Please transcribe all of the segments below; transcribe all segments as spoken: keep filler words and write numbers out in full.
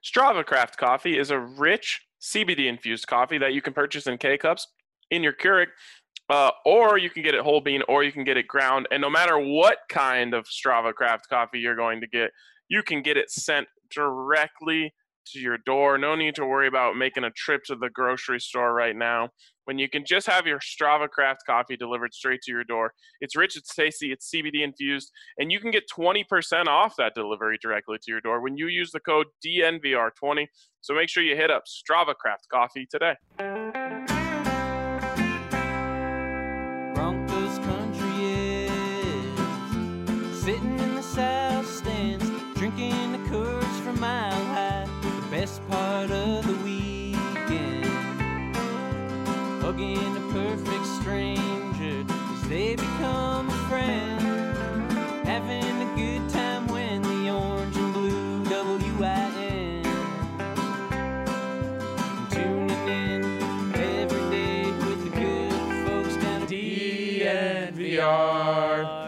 Strava Craft Coffee is a rich C B D-infused coffee that you can purchase in K-Cups in your Keurig, uh, or you can get it whole bean, or you can get it ground. And no matter what kind of Strava Craft coffee you're going to get, you can get it sent directly to your door. No need to worry about making a trip to the grocery store right now, when you can just have your Strava Craft coffee delivered straight to your door. It's rich, it's tasty, it's C B D infused, and you can get twenty percent off that delivery directly to your door when you use the code D N V R twenty. So make sure you hit up Strava Craft Coffee today. Broncos country is sitting in the south stands, drinking the Coors from Mile High. The best part of the weekend, hugging a perfect stranger as they become a friend, having a good time when the orange and blue W I N, tuning in every day with the good folks down at D N V R.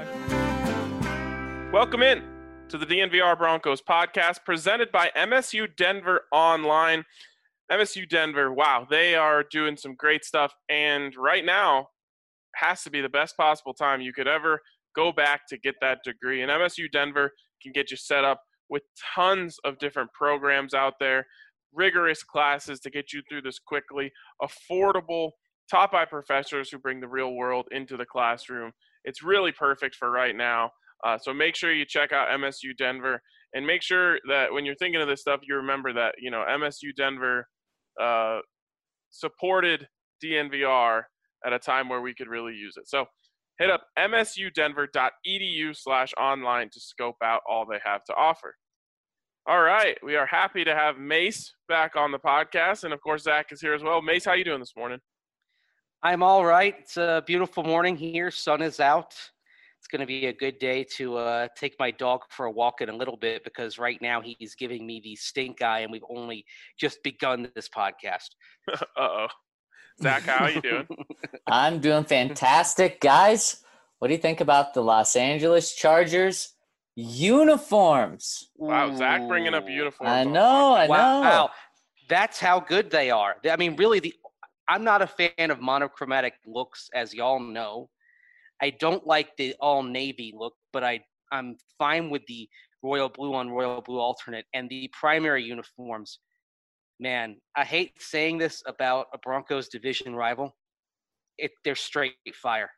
Welcome in to the D N V R Broncos podcast, presented by M S U Denver Online. M S U Denver, wow, they are doing some great stuff, and right now has to be the best possible time you could ever go back to get that degree. And M S U Denver can get you set up with tons of different programs out there, rigorous classes to get you through this quickly, affordable, top-eye professors who bring the real world into the classroom. It's really perfect for right now. Uh, so make sure you check out M S U Denver, and make sure that when you're thinking of this stuff, you remember that, you know, M S U Denver uh, supported D N V R at a time where we could really use it. So hit up msudenver.edu slash online to scope out all they have to offer. All right, we are happy to have Mace back on the podcast, and of course Zach is here as well. Mace, how you doing this morning? I'm all right. It's a beautiful morning here. Sun is out. It's going to be a good day to uh, take my dog for a walk in a little bit, because right now he's giving me the stink eye, and we've only just begun this podcast. Uh-oh. Zach, how are you doing? I'm doing fantastic. Guys, what do you think about the Los Angeles Chargers uniforms? Wow, Zach bringing up uniforms. I know, I wow. know. Wow, that's how good they are. I mean, really, the I'm not a fan of monochromatic looks, as y'all know. I don't like the all-navy look, but I, I'm fine with the royal blue on royal blue alternate. And the primary uniforms, man, I hate saying this about a Broncos division rival. It, they're straight fire.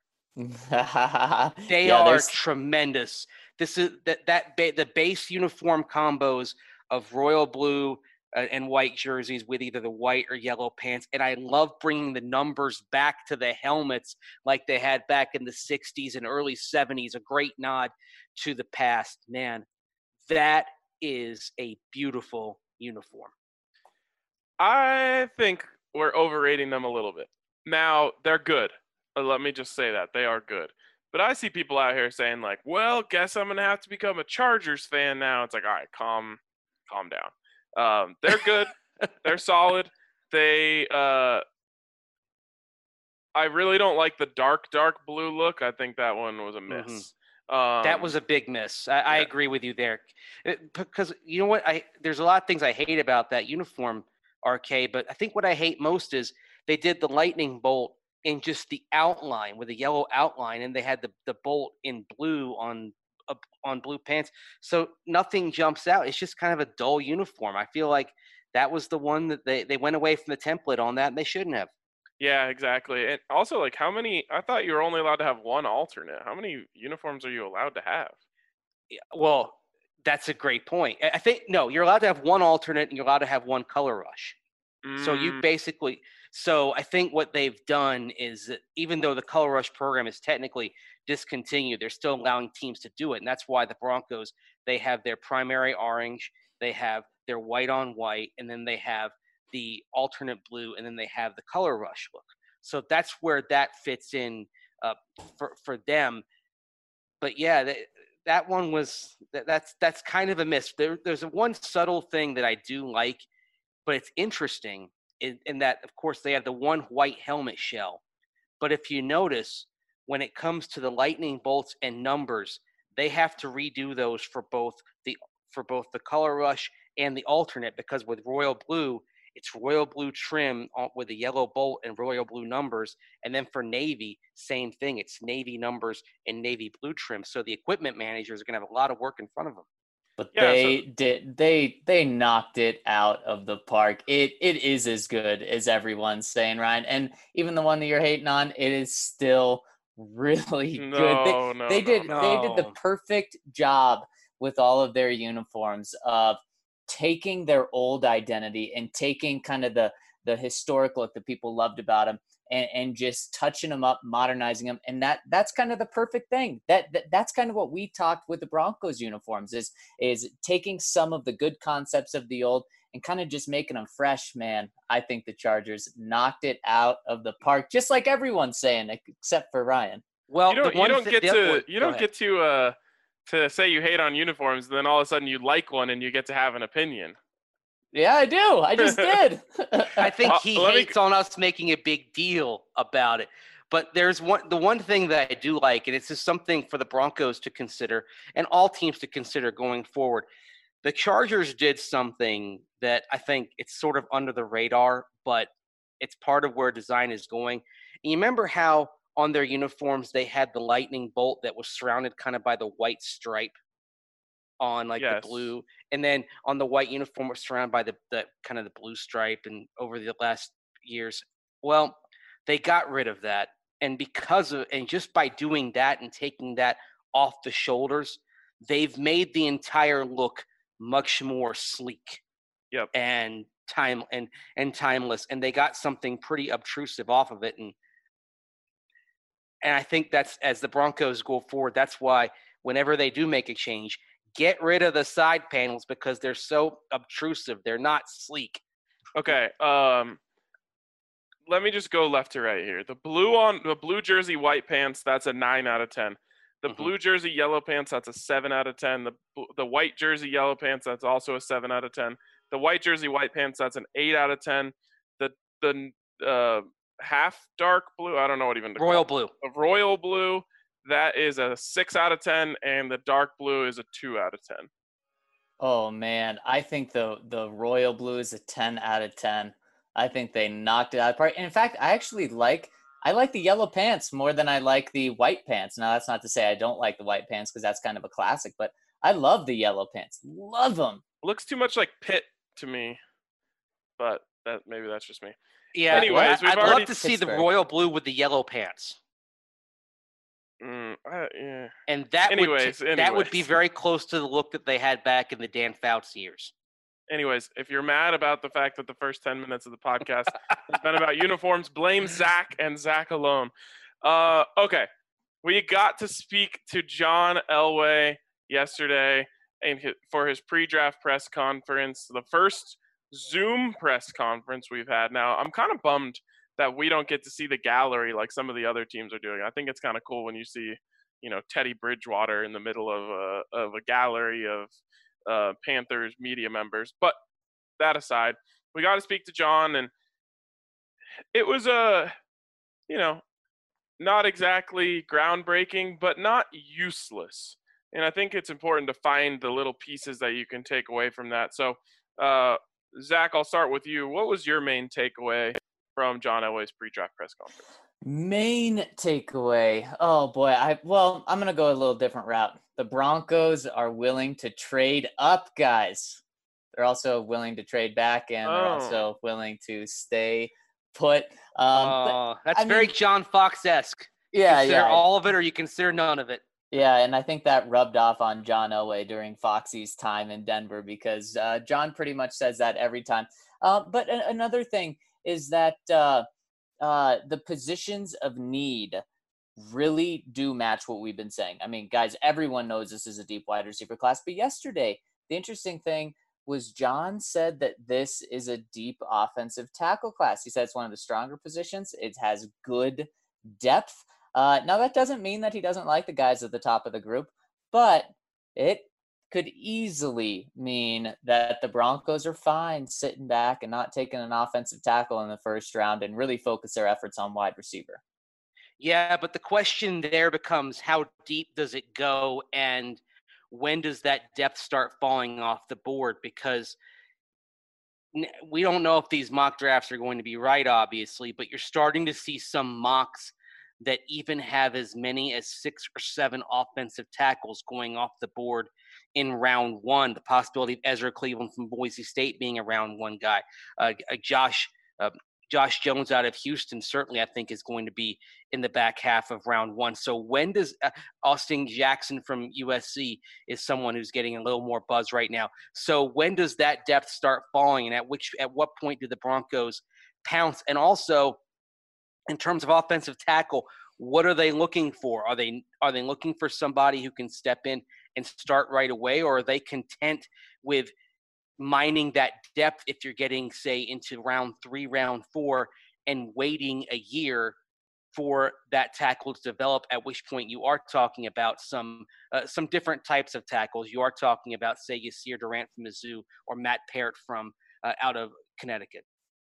They yeah, are there's... tremendous. This is that that ba- the base uniform combos of royal blue uh, and white jerseys with either the white or yellow pants. And I love bringing the numbers back to the helmets like they had back in the sixties and early seventies, a great nod to the past. Man, that is a beautiful uniform. I think we're overrating them a little bit. Now, they're good. Let me just say that. They are good. But I see people out here saying, like, well, guess I'm going to have to become a Chargers fan now. It's like, all right, calm, calm down. Um, they're good. They're solid. They, uh, I really don't like the dark, dark blue look. I think that one was a miss. Mm-hmm. Um, that was a big miss. I, I yeah. agree with you there. It, because you know what? I There's a lot of things I hate about that uniform, R K, but I think what I hate most is they did the lightning bolt in just the outline with a yellow outline, and they had the, the bolt in blue on uh, on blue pants. So nothing jumps out. It's just kind of a dull uniform. I feel like that was the one that they, they went away from the template on that, and they shouldn't have. Yeah, exactly. And also, like, how many – I thought you were only allowed to have one alternate. How many uniforms are you allowed to have? Yeah, well, that's a great point. I think – no, you're allowed to have one alternate, and you're allowed to have one color rush. Mm. So you basically – so I think what they've done is that even though the color rush program is technically discontinued, they're still allowing teams to do it. And that's why the Broncos, they have their primary orange, they have their white on white, and then they have the alternate blue, and then they have the color rush look. So that's where that fits in uh, for, for them. But yeah, that, that one was, that, that's, that's kind of a miss. There, there's a one subtle thing that I do like, but it's interesting. In, in that, of course, they have the one white helmet shell. But if you notice, when it comes to the lightning bolts and numbers, they have to redo those for both the for both the color rush and the alternate, because with royal blue, it's royal blue trim with a yellow bolt and royal blue numbers. And then for Navy, same thing. It's Navy numbers and Navy blue trim. So the equipment managers are going to have a lot of work in front of them. But Yeah, they so- did they they knocked it out of the park. It it is as good as everyone's saying, Ryan. And even the one that you're hating on, it is still really No, good. They, no, they no, did no. they did the No. perfect job with all of their uniforms of taking their old identity and taking kind of the the historic look that people loved about them, and, and just touching them up, modernizing them. And that that's kind of the perfect thing. That, that that's kind of what we talked with the Broncos uniforms is is taking some of the good concepts of the old and kind of just making them fresh. Man, I think the Chargers knocked it out of the park, just like everyone's saying, except for Ryan. Well, you don't the you one don't thi- get the other to one- you go don't ahead. get to uh to say you hate on uniforms, and then all of a sudden you like one and you get to have an opinion. Yeah, I do. I just did. I think Uh, he let me- hates on us making a big deal about it. But there's one the one thing that I do like, and it's just something for the Broncos to consider and all teams to consider going forward. The Chargers did something that I think it's sort of under the radar, but it's part of where design is going. And you remember how on their uniforms they had the lightning bolt that was surrounded kind of by the white stripe on like Yes. the blue, and then on the white uniform was surrounded by the, the kind of the blue stripe. And over the last years, well, they got rid of that, and because of and just by doing that and taking that off the shoulders, they've made the entire look much more sleek. Yep. And time and and timeless, and they got something pretty obtrusive off of it. And and I think that's, as the Broncos go forward, that's why whenever they do make a change, get rid of the side panels because they're so obtrusive. They're not sleek. Okay. Um, let me just go left to right here. The blue on the blue jersey, white pants. That's a nine out of ten. The Mhm. blue jersey, yellow pants. That's a seven out of ten. The bl- the white jersey, yellow pants. That's also a seven out of ten. The white jersey, white pants. That's an eight out of ten. The the uh, half dark blue. I don't know what even to call Royal it. blue. The royal blue. That is a six out of ten, and the dark blue is a two out of ten. Oh man, I think the the royal blue is a ten out of ten. I think they knocked it out of the park. And in fact, I actually like I like the yellow pants more than I like the white pants. Now that's not to say I don't like the white pants because that's kind of a classic, but I love the yellow pants. Love them. Looks too much like Pitt to me, but that maybe that's just me. Yeah. Anyways, I, we've I'd already- love to see the Pittsburgh. royal blue with the yellow pants. Mm, I, yeah. And that Anyways, would t- that would be anyways. very close to the look that they had back in the Dan Fouts years. Anyways, if you're mad about the fact that the first ten minutes of the podcast has been about uniforms, blame Zach and Zach alone. Uh, okay, we got to speak to John Elway yesterday and hi- for his pre-draft press conference, the first Zoom press conference we've had. Now, I'm kind of bummed that we don't get to see the gallery like some of the other teams are doing. I think it's kind of cool when you see, you know, Teddy Bridgewater in the middle of a of a gallery of uh, Panthers media members. But that aside, we got to speak to John, and it was a, you know, not exactly groundbreaking, but not useless. And I think it's important to find the little pieces that you can take away from that. So, uh, Zach, I'll start with you. What was your main takeaway from John Elway's pre-draft press conference? Main takeaway. Oh boy, I well, I'm gonna go a little different route. The Broncos are willing to trade up, guys. They're also willing to trade back, and they're Oh. also willing to stay put. Um, but Oh, that's I very mean- John Fox-esque. yeah, Consider yeah, all of it, or you consider none of it. yeah, and I think that rubbed off on John Elway during Foxy's time in Denver because uh, John pretty much says that every time. Uh, but a- another thing is that uh, uh, the positions of need really do match what we've been saying. I mean, guys, everyone knows this is a deep wide receiver class. But yesterday, the interesting thing was John said that this is a deep offensive tackle class. He said it's one of the stronger positions. It has good depth. Uh, now, that doesn't mean that he doesn't like the guys at the top of the group, but it could easily mean that the Broncos are fine sitting back and not taking an offensive tackle in the first round and really focus their efforts on wide receiver. Yeah, but the question there becomes how deep does it go, and when does that depth start falling off the board? Because we don't know if these mock drafts are going to be right, obviously, but you're starting to see some mocks that even have as many as six or seven offensive tackles going off the board in round one. The possibility of Ezra Cleveland from Boise State being a round one guy. Uh, Josh uh, Josh Jones out of Houston certainly, I think, is going to be in the back half of round one. So when does uh, Austin Jackson from U S C is someone who's getting a little more buzz right now. So when does that depth start falling, and at which at what point do the Broncos pounce? And also, in terms of offensive tackle, what are they looking for? Are they are they looking for somebody who can step in and start right away, or are they content with mining that depth if you're getting, say, into round three, round four, and waiting a year for that tackle to develop, at which point you are talking about some uh, some different types of tackles. You are talking about, say, Yasir Durant from Mizzou or Matt Parrott from uh, out of Connecticut.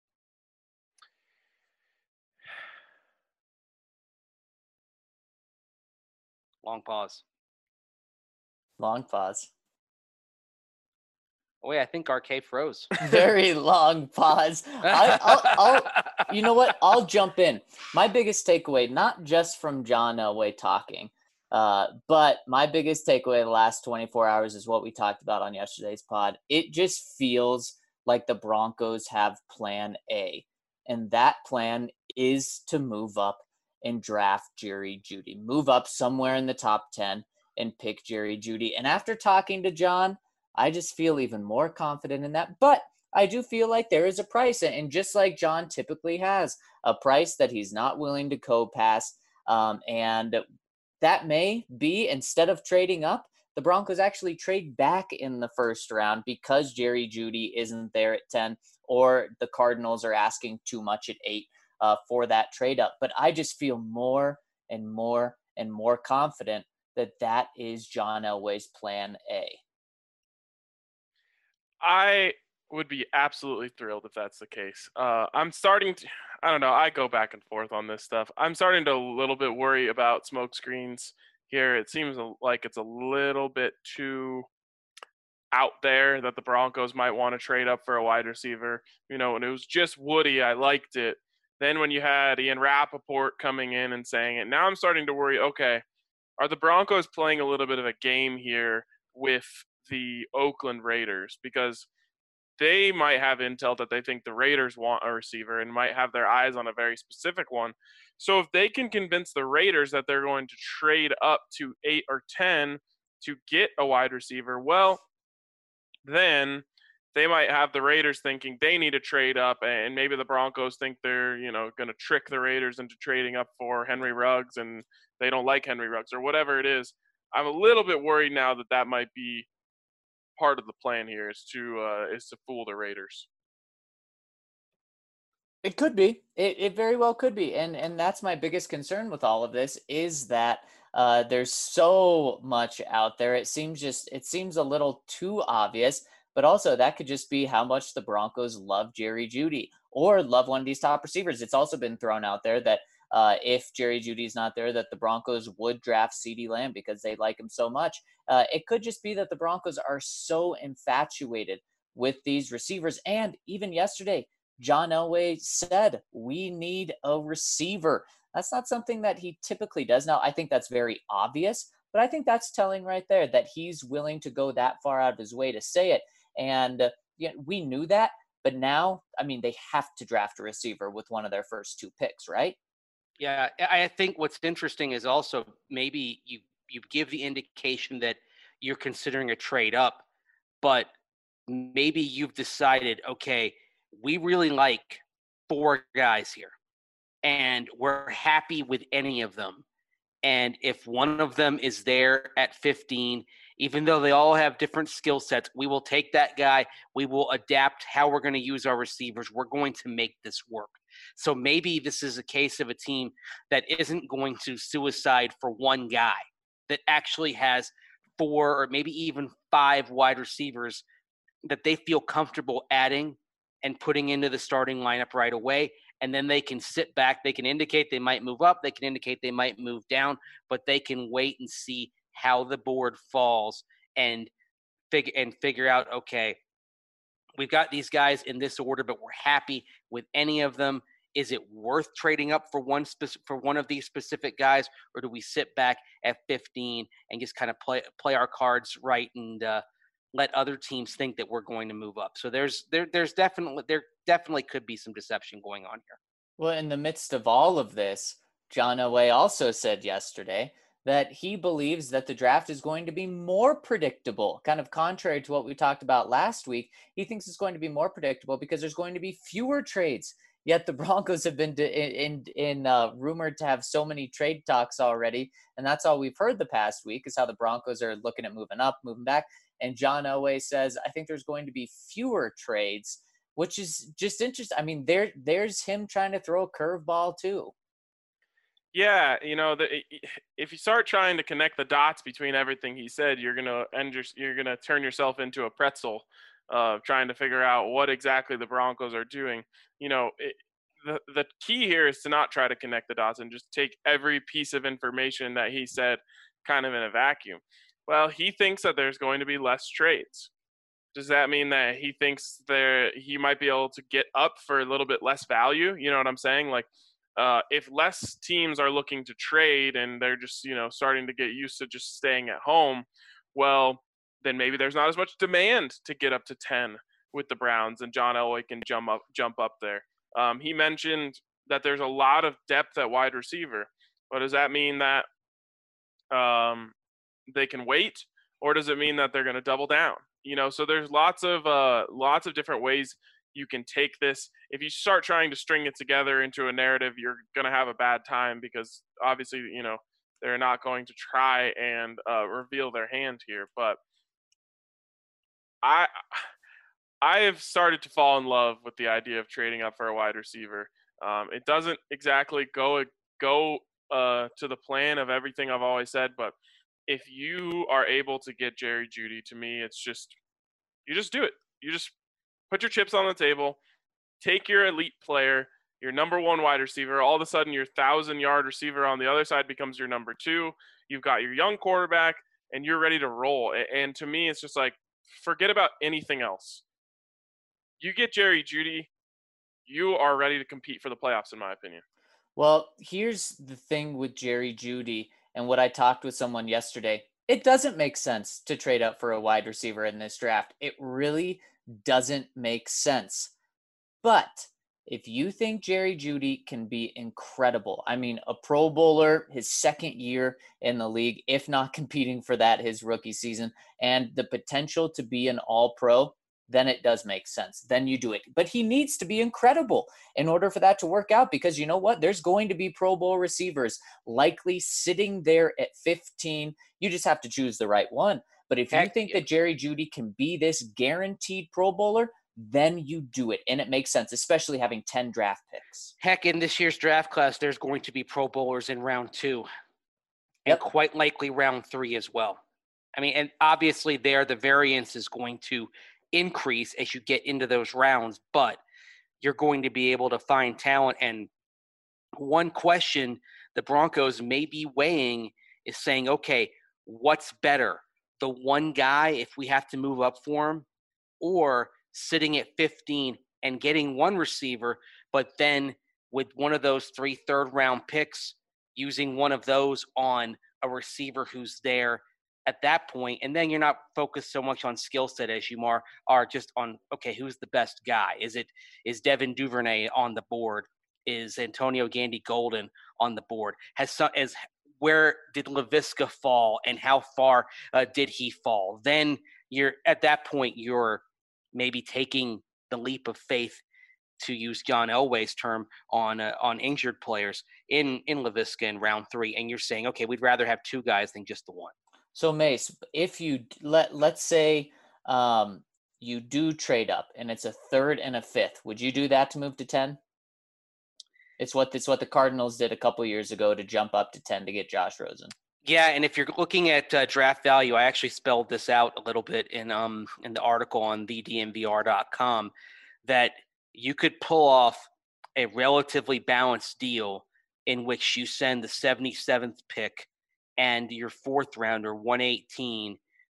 Long pause. Long pause. Oh, wait, I think R K froze. Very long pause. I, I'll, I'll, you know what? I'll jump in. My biggest takeaway, not just from John Elway talking, uh, but my biggest takeaway the last twenty-four hours is what we talked about on yesterday's pod. It just feels like the Broncos have plan A, and that plan is to move up and draft Jerry Jeudy. Move up somewhere in the top ten and pick Jerry Jeudy. And after talking to John, I just feel even more confident in that. But I do feel like there is a price. And just like John typically has, a price that he's not willing to co-pass. Um, and that may be, instead of trading up, the Broncos actually trade back in the first round because Jerry Jeudy isn't there at ten, or the Cardinals are asking too much at eight uh, for that trade up. But I just feel more and more and more confident that that is John Elway's plan A. I would be absolutely thrilled if that's the case. Uh, I'm starting to, I don't know, I go back and forth on this stuff. I'm starting to a little bit worry about smoke screens here. It seems like it's a little bit too out there that the Broncos might want to trade up for a wide receiver. You know, when it was just Woody, I liked it. Then when you had Ian Rappaport coming in and saying it, now I'm starting to worry, okay, are the Broncos playing a little bit of a game here with the Oakland Raiders? Because they might have intel that they think the Raiders want a receiver and might have their eyes on a very specific one. So if they can convince the Raiders that they're going to trade up to eight or ten to get a wide receiver, well, then they might have the Raiders thinking they need to trade up, and maybe the Broncos think they're, you know, going to trick the Raiders into trading up for Henry Ruggs, and they don't like Henry Ruggs or whatever it is. I'm a little bit worried now that that might be part of the plan here, is to uh, is to fool the Raiders. It could be. It it very well could be, and and that's my biggest concern with all of this, is that uh, there's so much out there. It seems just it seems a little too obvious. But also, that could just be how much the Broncos love Jerry Jeudy or love one of these top receivers. It's also been thrown out there that uh, if Jerry Judy's not there, that the Broncos would draft CeeDee Lamb because they like him so much. Uh, it could just be that the Broncos are so infatuated with these receivers. And even yesterday, John Elway said, we need a receiver. That's not something that he typically does. Now, I think that's very obvious, but I think that's telling right there that he's willing to go that far out of his way to say it. And uh, yeah, we knew that, but now, I mean, they have to draft a receiver with one of their first two picks, right? Yeah, I think what's interesting is also maybe you you give the indication that you're considering a trade up, but maybe you've decided, okay, we really like four guys here, and we're happy with any of them. And if one of them is there at fifteen, even though they all have different skill sets, we will take that guy. We will adapt how we're going to use our receivers. We're going to make this work. So maybe this is a case of a team that isn't going to suicide for one guy, that actually has four or maybe even five wide receivers that they feel comfortable adding and putting into the starting lineup right away. And then they can sit back. They can indicate they might move up. They can indicate they might move down, but they can wait and see how the board falls and figure and figure out, okay, we've got these guys in this order, but we're happy with any of them. Is it worth trading up for one spec- for one of these specific guys, or do we sit back at fifteen and just kind of play play our cards right and uh, let other teams think that we're going to move up? So there's there there's definitely there definitely could be some deception going on here. Well, in the midst of all of this, John Elway also said yesterday that he believes that the draft is going to be more predictable, kind of contrary to what we talked about last week. He thinks it's going to be more predictable because there's going to be fewer trades. Yet the Broncos have been in in, in uh, rumored to have so many trade talks already, and that's all we've heard the past week is how the Broncos are looking at moving up, moving back. And John Elway says, I think there's going to be fewer trades, which is just interesting. I mean, there there's him trying to throw a curveball too. Yeah, you know, the, if you start trying to connect the dots between everything he said, you're gonna end your, you're gonna turn yourself into a pretzel, uh, trying to figure out what exactly the Broncos are doing. You know, it, the the key here is to not try to connect the dots and just take every piece of information that he said kind of in a vacuum. Well, he thinks that there's going to be less trades. Does that mean that he thinks there he might be able to get up for a little bit less value? You know what I'm saying? Like, uh, if less teams are looking to trade and they're just, you know, starting to get used to just staying at home, well, then maybe there's not as much demand to get up to ten with the Browns, and John Elway can jump up, jump up there. Um, he mentioned that there's a lot of depth at wide receiver. But does that mean that um, they can wait, or does it mean that they're going to double down? You know, so there's lots of uh, lots of different ways you can take this. If you start trying to string it together into a narrative, you're going to have a bad time because obviously, you know, they're not going to try and uh, reveal their hand here. But I I have started to fall in love with the idea of trading up for a wide receiver. Um, it doesn't exactly go go uh, to the plan of everything I've always said, but if you are able to get Jerry Jeudy, to me, it's just you just do it. You just put your chips on the table, take your elite player, your number one wide receiver. All of a sudden, your thousand-yard receiver on the other side becomes your number two. You've got your young quarterback, and you're ready to roll. And to me, it's just like, forget about anything else. You get Jerry Jeudy, you are ready to compete for the playoffs, in my opinion. Well, here's the thing with Jerry Jeudy and what I talked with someone yesterday. It doesn't make sense to trade up for a wide receiver in this draft. It really doesn't make sense. But if you think Jerry Jeudy can be incredible, I mean, a Pro Bowler, his second year in the league, if not competing for that his rookie season, and the potential to be an all-pro, then it does make sense. Then you do it. But he needs to be incredible in order for that to work out, because you know what? There's going to be Pro Bowl receivers likely sitting there at fifteen. You just have to choose the right one. But if Heck, you think yeah. that Jerry Jeudy can be this guaranteed Pro Bowler, then you do it. And it makes sense, especially having ten draft picks. Heck, in this year's draft class, there's going to be Pro Bowlers in round two Yep. and quite likely round three as well. I mean, and obviously there the variance is going to increase as you get into those rounds, but you're going to be able to find talent. And one question the Broncos may be weighing is saying, okay, what's better? The one guy, if we have to move up for him, or sitting at fifteen and getting one receiver, but then with one of those three third round picks, using one of those on a receiver who's there at that point, and then you're not focused so much on skill set as you are, are just on, okay, who's the best guy? Is it is Devin Duvernay on the board? Is Antonio Gandy Golden on the board? Has some, as where did Laviska fall, and how far uh, did he fall? Then you're at that point, you're maybe taking the leap of faith, to use John Elway's term, on uh, on injured players in in Laviska in round three, and you're saying, okay, we'd rather have two guys than just the one. So Mace, if you let let's say um, you do trade up and it's a third and a fifth, would you do that to move to ten? It's what it's what the Cardinals did a couple years ago to jump up to ten to get Josh Rosen. Yeah, and if you're looking at uh, draft value, I actually spelled this out a little bit in um in the article on the D N V R dot com, that you could pull off a relatively balanced deal in which you send the seventy-seventh pick and your fourth rounder, one eighteen,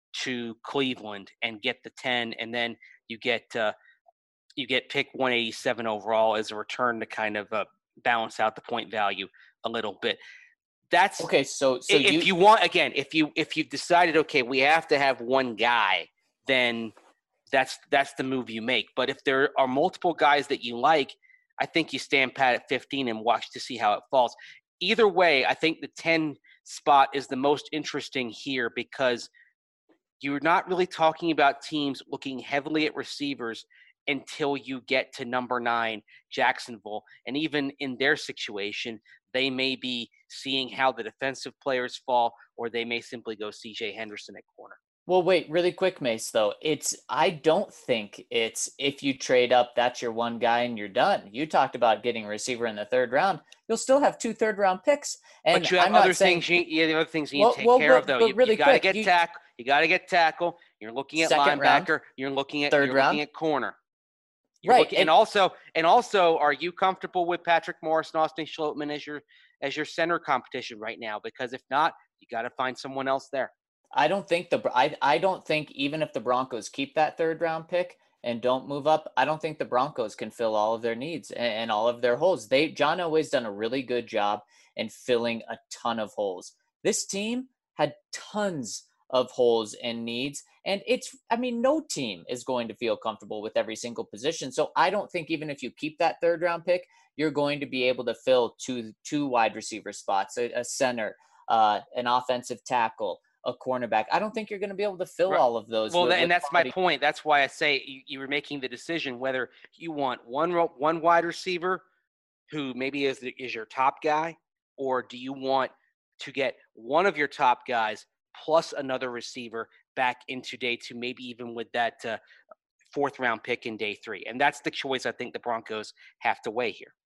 to Cleveland and get the ten, and then you get uh, you get pick one eighty-seven overall as a return to kind of uh, balance out the point value a little bit. That's okay. So, so if you, you want, again, if you if you've decided, okay, we have to have one guy, then that's that's the move you make. But if there are multiple guys that you like, I think you stand pat at fifteen and watch to see how it falls. Either way, I think the ten spot is the most interesting here because you're not really talking about teams looking heavily at receivers until you get to number nine, Jacksonville. And even in their situation, they may be seeing how the defensive players fall, or they may simply go C J Henderson at corner. well, wait, really quick, Mace, though. It's, I don't think it's if you trade up, that's your one guy and you're done. You talked about getting a receiver in the third round. You'll still have two third round picks. And but you have I'm other not saying, things you, yeah, the other things you well, need to take well, care but, of, though. But you really you got to quick, get you, tackle. You got to get tackle. You're looking at Second linebacker. round, You're looking at third you're round. looking at corner. You're right. Looking, and, and also, and also, are you comfortable with Patrick Morris and Austin Schlottman as your as your center competition right now? Because if not, you got to find someone else there. I don't think the I, I don't think even if the Broncos keep that third round pick and don't move up, I don't think the Broncos can fill all of their needs and, and all of their holes. They John Elway's done a really good job in filling a ton of holes. This team had tons of holes and needs, and it's I mean no team is going to feel comfortable with every single position. So I don't think even if you keep that third round pick, you're going to be able to fill two two wide receiver spots, a, a center, uh, an offensive tackle, a cornerback. I don't think you're going to be able to fill Right. all of those. Well, with, and with that's quality. my point. That's why I say you, you were making the decision whether you want one ro- one wide receiver who maybe is the, is your top guy, or do you want to get one of your top guys plus another receiver back into day two, maybe even with that uh, fourth round pick in day three. And that's the choice I think the Broncos have to weigh here.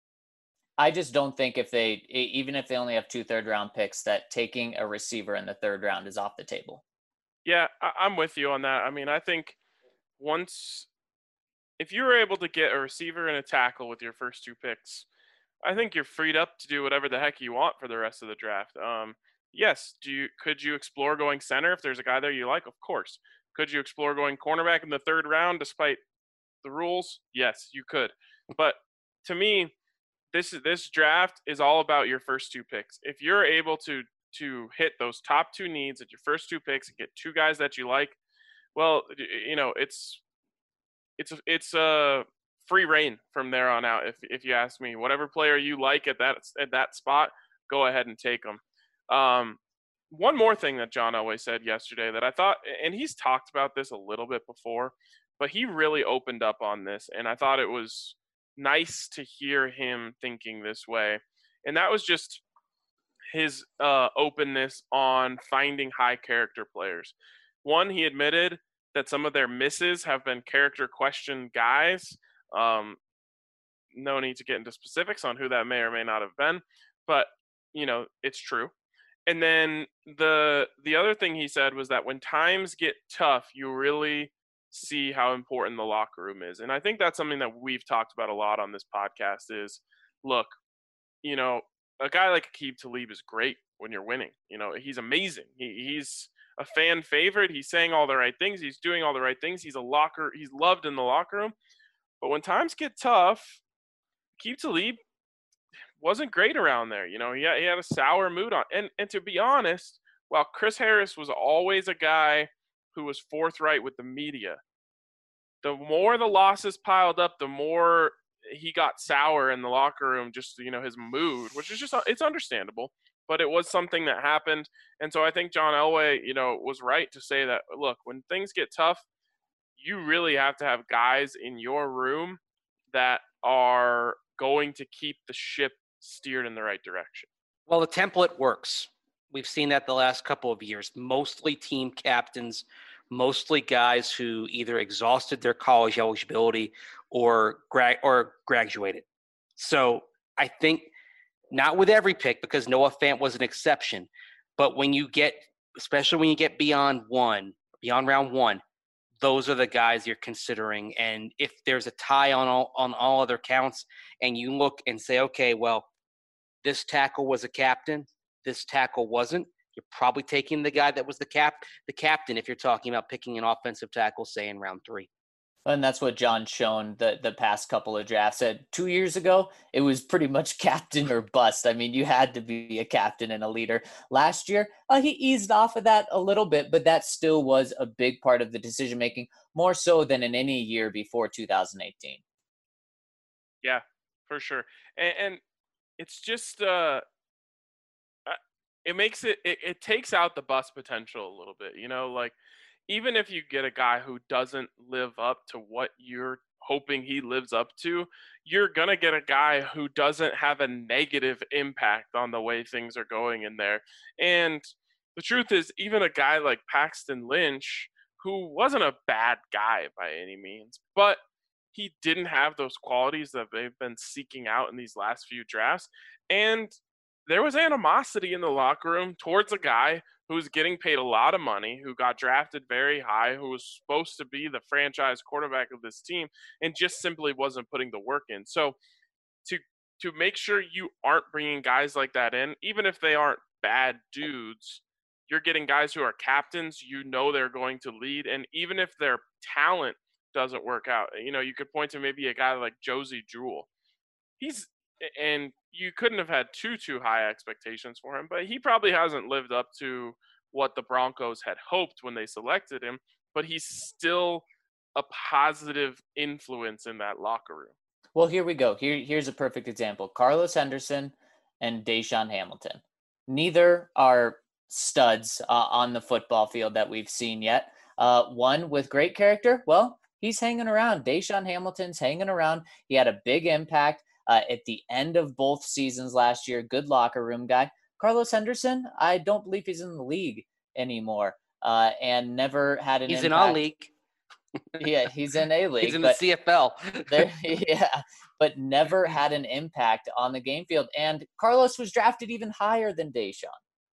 I just don't think if they, even if they only have two third round picks, that taking a receiver in the third round is off the table. Yeah, I- I'm with you on that. I mean, I think once, if you were able to get a receiver and a tackle with your first two picks, I think you're freed up to do whatever the heck you want for the rest of the draft. Um, yes, do you could you explore going center if there's a guy there you like? Of course. Could you explore going cornerback in the third round despite the rules? Yes, you could. But to me, this this draft is all about your first two picks. If you're able to to hit those top two needs at your first two picks and get two guys that you like, well, you know, it's it's it's a free reign from there on out. If if you ask me, whatever player you like at that at that spot, go ahead and take them. Um, one more thing that John Elway said yesterday that I thought, and he's talked about this a little bit before, but he really opened up on this, and I thought it was nice to hear him thinking this way. And that was just his uh, openness on finding high character players. One, he admitted that some of their misses have been character question guys. Um, no need to get into specifics on who that may or may not have been, but you know, it's true. And then the the other thing he said was that when times get tough, you really see how important the locker room is. And I think that's something that we've talked about a lot on this podcast is, look, you know, a guy like Aqib Talib is great when you're winning. You know, he's amazing. He, he's a fan favorite. He's saying all the right things. He's doing all the right things. He's a locker. He's loved in the locker room. But when times get tough, Aqib Talib wasn't great around there. You know, he had, he had a sour mood on. And and to be honest, while Chris Harris was always a guy who was forthright with the media, the more the losses piled up, the more he got sour in the locker room, just, you know, his mood, which is just, it's understandable, but it was something that happened. And so I think John Elway, you know, was right to say that, look, when things get tough, you really have to have guys in your room that are going to keep the ship steered in the right direction. Well, the template works. We've seen that the last couple of years, mostly team captains, mostly guys who either exhausted their college eligibility or gra- or graduated. So I think not with every pick, because Noah Fant was an exception, but when you get, especially when you get beyond one, beyond round one, those are the guys you're considering. And if there's a tie on all, on all other counts, and you look and say, okay, well, this tackle was a captain, this tackle wasn't, you're probably taking the guy that was the cap, the captain, if you're talking about picking an offensive tackle, say in round three. And that's what John's shown the, the past couple of drafts. At two years ago, it was pretty much captain or bust. I mean, you had to be a captain and a leader. Last year, uh, he eased off of that a little bit, but that still was a big part of the decision making, more so than in any year before two thousand eighteen. Yeah, for sure. And, and it's just uh, it makes it, it it takes out the bust potential a little bit. You know, like even if you get a guy who doesn't live up to what you're hoping he lives up to, you're going to get a guy who doesn't have a negative impact on the way things are going in there. And the truth is, even a guy like Paxton Lynch, who wasn't a bad guy by any means, but he didn't have those qualities that they've been seeking out in these last few drafts. And there was animosity in the locker room towards a guy who's getting paid a lot of money, who got drafted very high, who was supposed to be the franchise quarterback of this team, and just simply wasn't putting the work in. So to to make sure you aren't bringing guys like that in, even if they aren't bad dudes, you're getting guys who are captains, you know they're going to lead, and even if their talent doesn't work out, you know, you could point to maybe a guy like Josie Jewell. He's and you couldn't have had too too high expectations for him, but he probably hasn't lived up to what the Broncos had hoped when they selected him, but he's still a positive influence in that locker room. Well, here we go. Here, here's a perfect example. Carlos Henderson and Deshaun Hamilton. Neither are studs uh, on the football field that we've seen yet. Uh, one with great character, well, he's hanging around. Deshaun Hamilton's hanging around. He had a big impact uh, at the end of both seasons last year. Good locker room guy. Carlos Henderson, I don't believe he's in the league anymore uh, and never had an He's impact. in our league. Yeah, he's in a league. He's in the C F L. there, yeah, but never had an impact on the game field. And Carlos was drafted even higher than Deshaun.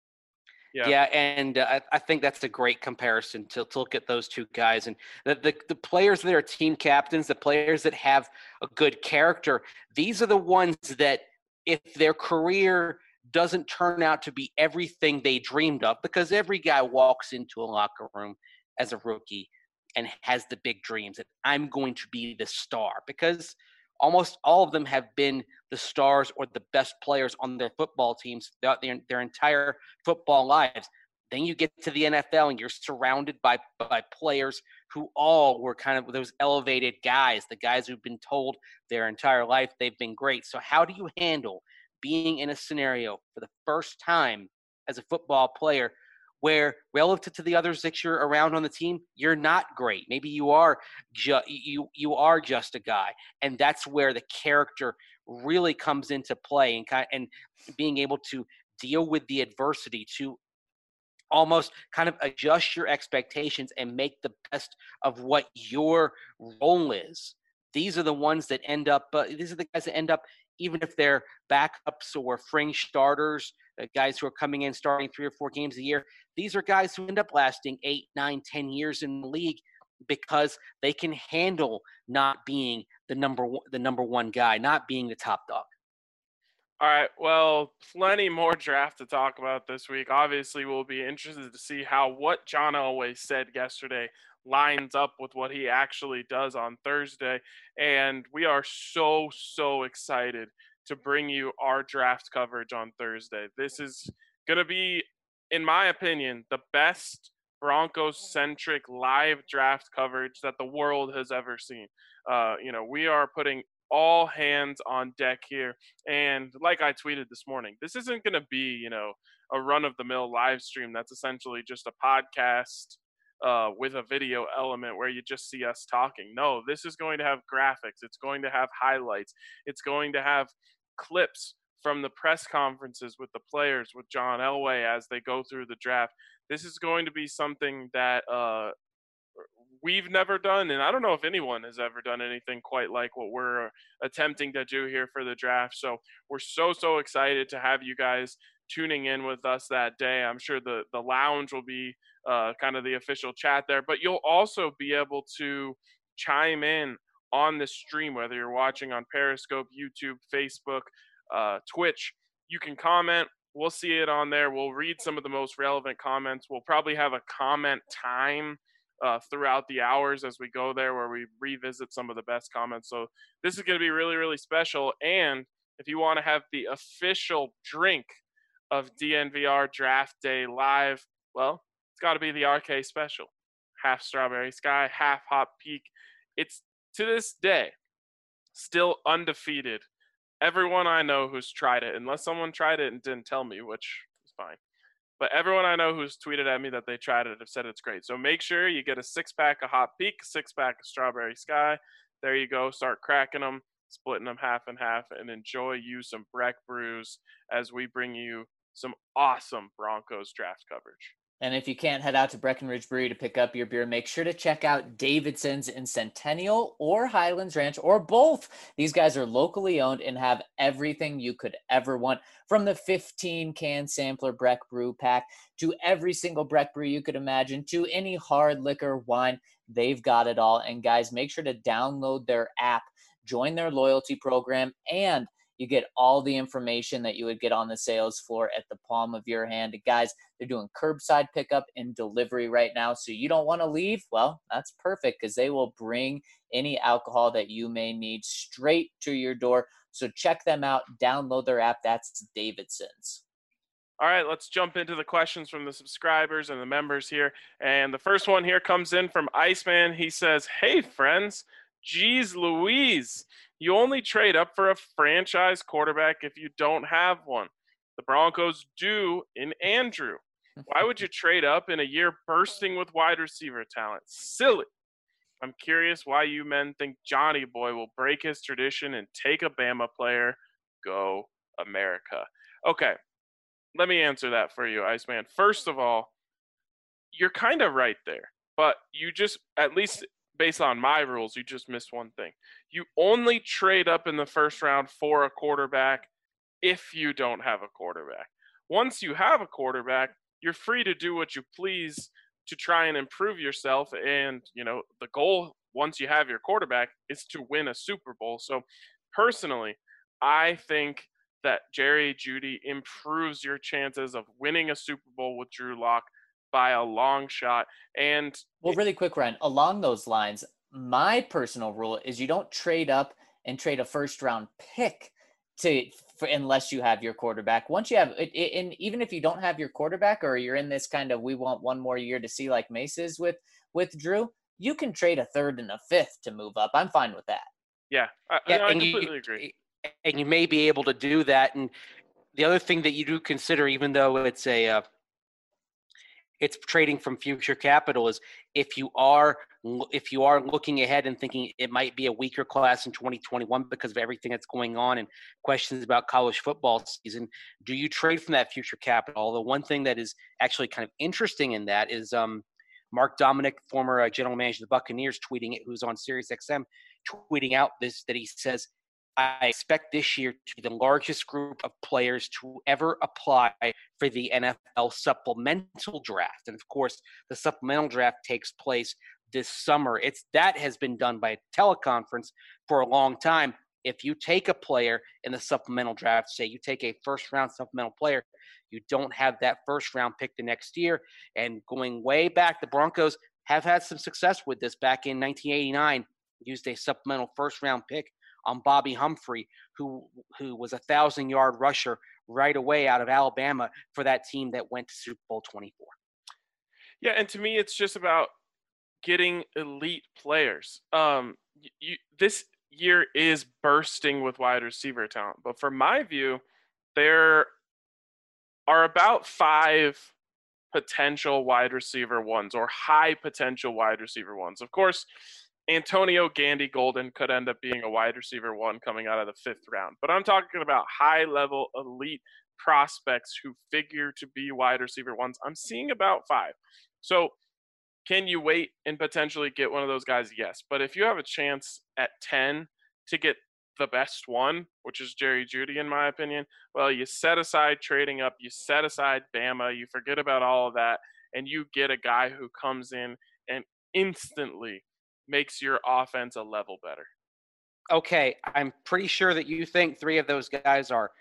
Yeah, yeah and uh, I, I think that's a great comparison to, to look at those two guys. And the, the, the players that are team captains, the players that have a good character, these are the ones that if their career doesn't turn out to be everything they dreamed of, because every guy walks into a locker room as a rookie and has the big dreams that I'm going to be the star, because almost all of them have been the stars or the best players on their football teams throughout their, their entire football lives. Then you get to the N F L and you're surrounded by, by players who all were kind of those elevated guys, the guys who've been told their entire life they've been great. So how do you handle being in a scenario for the first time as a football player where relative to the others that you're around on the team, you're not great? Maybe you are ju- you you are just a guy, and that's where the character really comes into play, and kind of, and being able to deal with the adversity, to almost kind of adjust your expectations and make the best of what your role is. These are the ones that end up. Uh, these are the guys that end up, even if they're backups or fringe starters, uh, guys who are coming in starting three or four games a year. These are guys who end up lasting eight, nine, ten years in the league because they can handle not being the number one, the number one guy, not being the top dog. All right, well, plenty more draft to talk about this week. Obviously, we'll be interested to see how what John Elway said yesterday lines up with what he actually does on Thursday. And we are so, so excited to bring you our draft coverage on Thursday. This is going to be, in my opinion, the best Broncos-centric live draft coverage that the world has ever seen. Uh, you know, we are putting all hands on deck here. And like I tweeted this morning, this isn't going to be, you know, a run-of-the-mill live stream that's essentially just a podcast uh, with a video element where you just see us talking. No, this is going to have graphics. It's going to have highlights. It's going to have clips from the press conferences with the players, with John Elway as they go through the draft. This is going to be something that uh, we've never done, and I don't know if anyone has ever done anything quite like what we're attempting to do here for the draft. So we're so, so excited to have you guys tuning in with us that day. I'm sure the, the lounge will be uh, kind of the official chat there, but you'll also be able to chime in on the stream, whether you're watching on Periscope, YouTube, Facebook, uh, Twitch. You can comment. we'll see it on there. We'll read some of the most relevant comments. We'll probably have a comment time uh, throughout the hours as we go there where we revisit some of the best comments. So this is going to be really, really special. And if you want to have the official drink of D N V R Draft Day Live, well, it's got to be the R K special. Half Strawberry Sky, half Hop Peak. It's, to this day, still undefeated. Everyone I know who's tried it, unless someone tried it and didn't tell me, which is fine. But everyone I know who's tweeted at me that they tried it have said it's great. So make sure you get a six-pack of Hop Peak, six-pack of Strawberry Sky. There you go. Start cracking them, splitting them half and half, and enjoy you some Breck brews as we bring you some awesome Broncos draft coverage. And if you can't head out to Breckenridge Brewery to pick up your beer, make sure to check out Davidson's in Centennial or Highlands Ranch or both. These guys are locally owned and have everything you could ever want, from the fifteen can sampler Breck Brew Pack to every single Breck brew you could imagine to any hard liquor, wine. They've got it all. And guys, make sure to download their app, join their loyalty program, and you get all the information that you would get on the sales floor at the palm of your hand. Guys, they're doing curbside pickup and delivery right now. So you don't want to leave? Well, that's perfect, because they will bring any alcohol that you may need straight to your door. So check them out. Download their app. That's Davidson's. All right, let's jump into the questions from the subscribers and the members here. And the first one here comes in from Iceman. He says, hey, friends, geez Louise, you only trade up for a franchise quarterback if you don't have one. The Broncos do in Andrew. Why would you trade up in a year bursting with wide receiver talent? Silly. I'm curious why you men think Johnny Boy will break his tradition and take a Bama player. Go America. Okay, let me answer that for you, Iceman. First of all, you're kind of right there, but you just, at least based on my rules, you just missed one thing. You only trade up in the first round for a quarterback if you don't have a quarterback. Once you have a quarterback, you're free to do what you please to try and improve yourself. And, you know, the goal, once you have your quarterback, is to win a Super Bowl. So personally, I think that Jerry Jeudy improves your chances of winning a Super Bowl with Drew Lock by a long shot. And well, really quick, Ryan, along those lines, my personal rule is you don't trade up and trade a first round pick to for, unless you have your quarterback. Once you have it, and even if you don't have your quarterback, or you're in this kind of we want one more year to see like Mace is with with Drew, you can trade a third and a fifth to move up. I'm fine with that. Yeah, I, yeah, I and completely you, agree. And you may be able to do that. And the other thing that you do consider, even though it's a uh, it's trading from future capital, is if you are if you are looking ahead and thinking it might be a weaker class in twenty twenty-one because of everything that's going on and questions about college football season, do you trade from that future capital? Although one thing that is actually kind of interesting in that is um, Mark Dominic, former uh, general manager of the Buccaneers, tweeting it, who's on Sirius X M, tweeting out this, that he says, I expect this year to be the largest group of players to ever apply for the N F L supplemental draft. And of course, the supplemental draft takes place this summer. It's that has been done by a teleconference for a long time. If you take a player in the supplemental draft, say you take a first round supplemental player, you don't have that first round pick the next year. And going way back, the Broncos have had some success with this. Back in nineteen eighty-nine, used a supplemental first round pick on Bobby Humphrey, who who was a thousand-yard rusher right away out of Alabama for that team that went to Super Bowl twenty-four. Yeah, and to me, it's just about getting elite players. Um, you, this year is bursting with wide receiver talent, but from my view, there are about five potential wide receiver ones or high potential wide receiver ones. Of course, Antonio Gandy Golden could end up being a wide receiver one coming out of the fifth round. But I'm talking about high-level elite prospects who figure to be wide receiver ones. I'm seeing about five. So can you wait and potentially get one of those guys? Yes. But if you have a chance at ten to get the best one, which is Jerry Jeudy, in my opinion, well, you set aside trading up, you set aside Bama, you forget about all of that, and you get a guy who comes in and instantly makes your offense a level better. Okay, I'm pretty sure that you think three of those guys are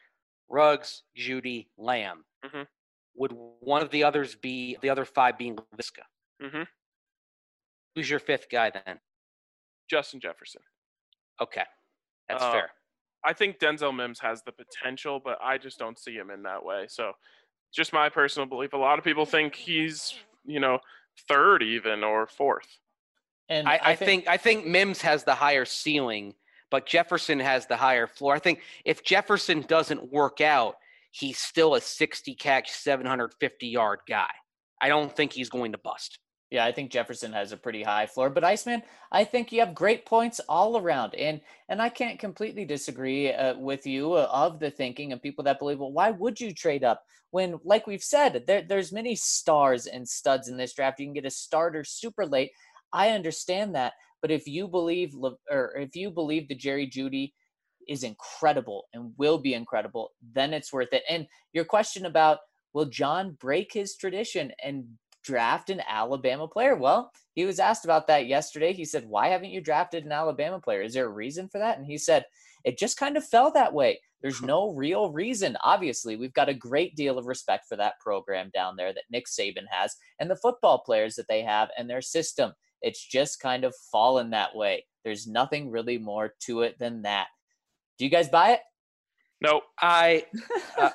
Ruggs, Judy, Lamb. Mm-hmm. Would one of the others be the other five being Laviska? Mm-hmm. Who's your fifth guy then? Justin Jefferson. Okay, that's Uh, fair. I think Denzel Mims has the potential, but I just don't see him in that way. So, just my personal belief. A lot of people think he's, you know, third even or fourth. And I, I, I think, think I think Mims has the higher ceiling, but Jefferson has the higher floor. I think if Jefferson doesn't work out, he's still a sixty catch, seven hundred fifty yard guy. I don't think he's going to bust. Yeah, I think Jefferson has a pretty high floor, but Iceman, I think you have great points all around, and and I can't completely disagree uh, with you uh, of the thinking of people that believe, well, why would you trade up when, like we've said, there, there's many stars and studs in this draft. You can get a starter super late. I understand that, but if you believe, or if you believe that Jerry Jeudy is incredible and will be incredible, then it's worth it. And your question about, will John break his tradition and draft an Alabama player? Well, he was asked about that yesterday. He said, why haven't you drafted an Alabama player? Is there a reason for that? And he said, it just kind of fell that way. There's no real reason. Obviously, we've got a great deal of respect for that program down there that Nick Saban has and the football players that they have and their system. It's just kind of fallen that way. There's nothing really more to it than that. Do you guys buy it? Nope. I uh,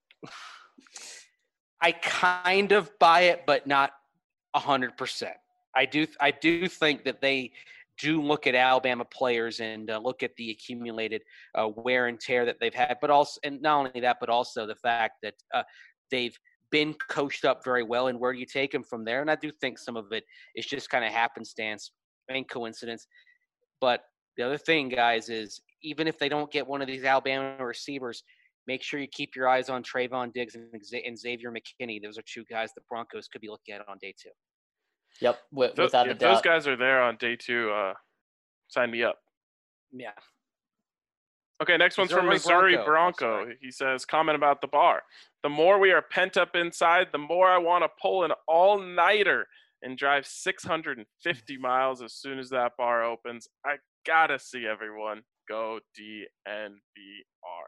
I kind of buy it, but not a hundred percent. I do I do think that they do look at Alabama players and uh, look at the accumulated uh, wear and tear that they've had, but also, and not only that, but also the fact that uh, they've been coached up very well, and where do you take them from there? And I do think some of it is just kind of happenstance and coincidence. But the other thing, guys, is even if they don't get one of these Alabama receivers, make sure you keep your eyes on Trayvon Diggs and, and Xavier McKinney. Those are two guys the Broncos could be looking at on day two. Yep, w- Those, without a if doubt. those guys are there on day two, uh, sign me up. Yeah. Okay, next one's from Missouri Missouri Bronco. Bronco. Oh, sorry. He says, comment about the bar. The more we are pent up inside, the more I want to pull an all-nighter and drive six hundred fifty miles as soon as that bar opens. I gotta see everyone go D N V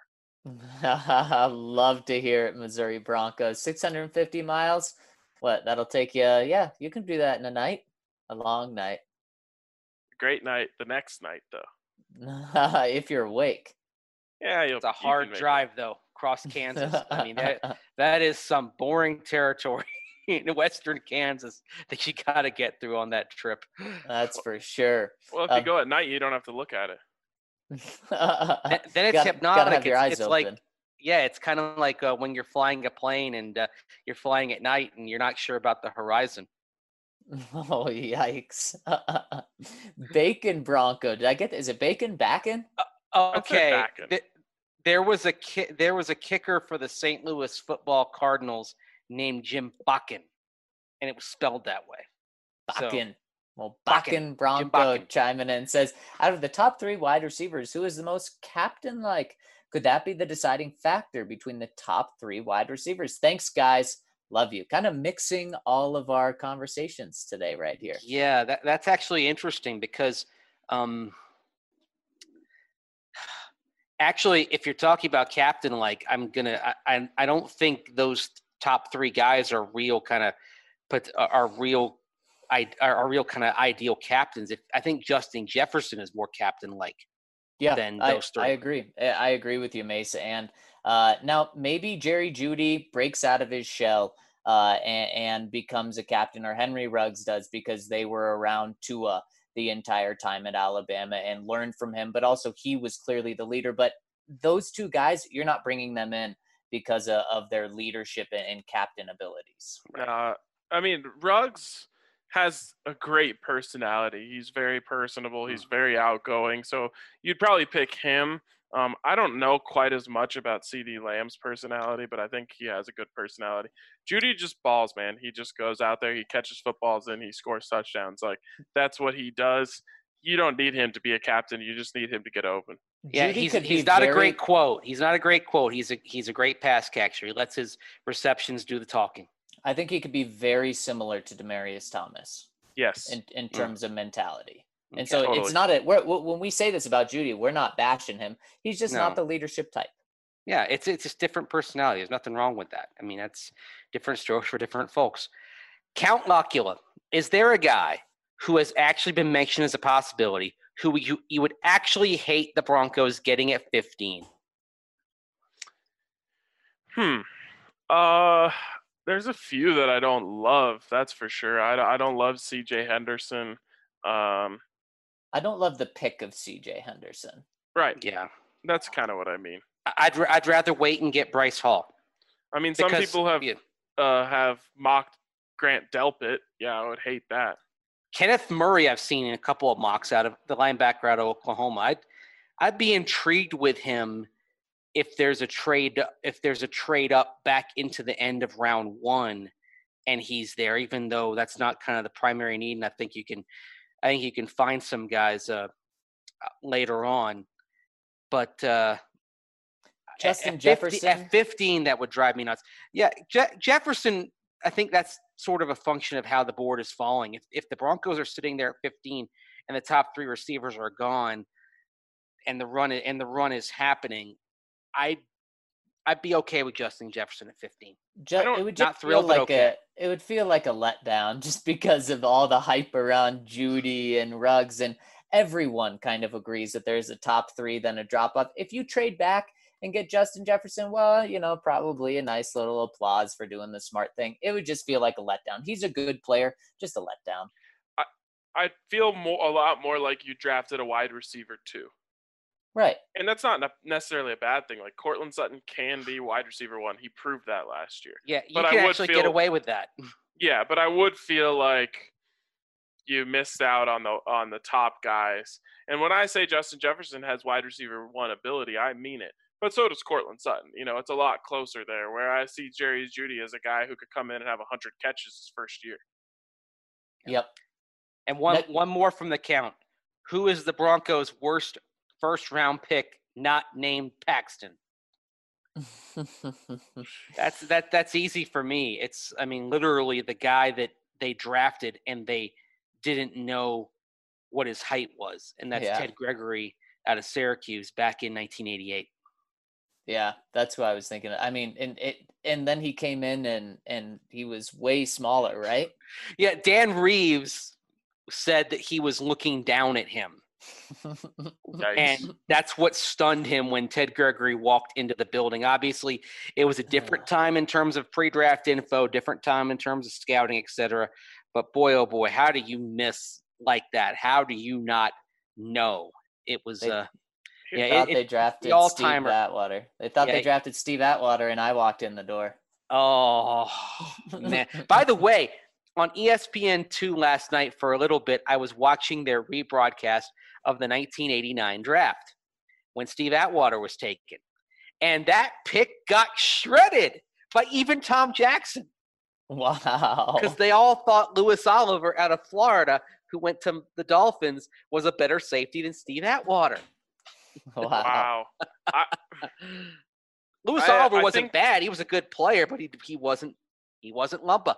R. Love to hear it, Missouri Broncos. six hundred fifty miles. What? That'll take you. Yeah, you can do that in a night. A long night. Great night. The next night, though. If you're awake. Yeah, you'll, It's a you hard can make drive, though, across Kansas. I mean, that that is some boring territory in western Kansas that you got to get through on that trip. That's for sure. it. Well, if Um, you go at night, you don't have to look at it. Th- then it's gotta, hypnotic. Gotta have your it's eyes it's open. like, yeah, it's kind of like uh, when you're flying a plane and uh, you're flying at night and you're not sure about the horizon. Oh, yikes. Bacon Bronco. Did I get Is it Bacon Bacon? Okay, back in. th- there was a ki- there was a kicker for the Saint Louis Football Cardinals named Jim Buckin, and it was spelled that way. So- Bakken. Well, Bakken. Bakken Bronco Bakken. chiming in says, out of the top three wide receivers, who is the most captain-like? Could that be the deciding factor between the top three wide receivers? Thanks, guys. Love you. Kind of mixing all of our conversations today right here. Yeah, that, that's actually interesting because um, actually, if you're talking about captain, like I'm gonna, I, I, I don't think those top three guys are real kind of, but are real, I are, are real kind of ideal captains. If I think Justin Jefferson is more captain-like. Yeah, than I, those three. I agree. I I agree with you, Mesa. And uh, now maybe Jerry Jeudy breaks out of his shell uh, and, and becomes a captain, or Henry Ruggs does, because they were around Tua the entire time at Alabama and learned from him. But also he was clearly the leader. But those two guys, you're not bringing them in because of, of their leadership and, and captain abilities. Uh, I mean, Ruggs has a great personality. He's very personable. He's very outgoing. So you'd probably pick him. Um, I don't know quite as much about CeeDee Lamb's personality, but I think he has a good personality. Jeudy just balls, man. He just goes out there, he catches footballs, and he scores touchdowns. Like, that's what he does. You don't need him to be a captain. You just need him to get open. Yeah, Jeudy he's could he's be not very- a great quote. He's not a great quote. He's a he's a great pass catcher. He lets his receptions do the talking. I think he could be very similar to Demaryius Thomas Yes. in, in terms of mentality. And Okay. so Totally. it's not a, we're, when we say this about Jeudy, we're not bashing him. He's just No. not the leadership type. Yeah, it's it's just different personality. There's nothing wrong with that. I mean, that's different strokes for different folks. Count Locula, is there a guy who has actually been mentioned as a possibility who you, you would actually hate the Broncos getting at fifteen? Hmm. Uh, there's a few that I don't love. That's for sure. I, I don't love C J Henderson. Um, I don't love the pick of C J Henderson. right. Yeah. That's kind of what I mean. I'd I'd rather wait and get Bryce Hall. I mean, some Because- people have yeah. uh, have mocked Grant Delpit. Yeah, I would hate that. Kenneth Murray, I've seen in a couple of mocks out of the linebacker out of Oklahoma. I'd I'd be intrigued with him if there's a trade if there's a trade up back into the end of round one, and he's there. Even though that's not kind of the primary need, and I think you can, I think you can find some guys uh, later on. But uh, Justin at, Jefferson? fifty, at fifteen, that would drive me nuts. Yeah, Je- Jefferson. I think that's sort of a function of how the board is falling. If if the Broncos are sitting there at fifteen and the top three receivers are gone, and the run and the run is happening, I I'd, I'd be okay with Justin Jefferson at fifteen. Just, don't- it would not just thrilled, feel but like okay. a it would feel like a letdown just because of all the hype around Judy and Ruggs, and everyone kind of agrees that there's a top three, then a drop off. If you trade back and get Justin Jefferson, well, you know, probably a nice little applause for doing the smart thing. It would just feel like a letdown. He's a good player, just a letdown. I feel more a lot more like you drafted a wide receiver too. Right. And that's not ne- necessarily a bad thing. Like Cortland Sutton can be wide receiver one. He proved that last year. Yeah, you But I can would actually feel- get away with that. Yeah, but I would feel like you missed out on the on the top guys. And when I say Justin Jefferson has wide receiver one ability, I mean it. But so does Cortland Sutton. You know, it's a lot closer there. Where I see Jerry Judy as a guy who could come in and have one hundred catches his first year. Yep. And one That- one more from the count. Who is the Broncos' worst first round pick not named Paxton? That's that that's easy for me. It's I mean literally the guy that they drafted and they didn't know what his height was, and that's Yeah. Ted Gregory out of Syracuse back in nineteen eighty-eight. Yeah, that's what I was thinking. I mean, and it and then he came in and and he was way smaller, right? Yeah, Dan Reeves said that he was looking down at him. Yikes. And that's what stunned him when Ted Gregory walked into the building. Obviously, it was a different time in terms of pre-draft info, different time in terms of scouting, et cetera. But boy, oh boy, how do you miss like that? How do you not know? It was, They- uh, They yeah, thought it, they it, drafted Steve all-timer. Atwater. They thought Yeah, they it- drafted Steve Atwater, and I walked in the door. oh, man. By the way, on E S P N two last night for a little bit, I was watching their rebroadcast of the nineteen eighty-nine draft when Steve Atwater was taken. And that pick got shredded by even Tom Jackson Wow. because they all thought Louis Oliver out of Florida, who went to the Dolphins, was a better safety than Steve Atwater. Wow. Wow. I, Louis I- Oliver I wasn't think- bad. He was a good player, but he he wasn't he wasn't Lumpa.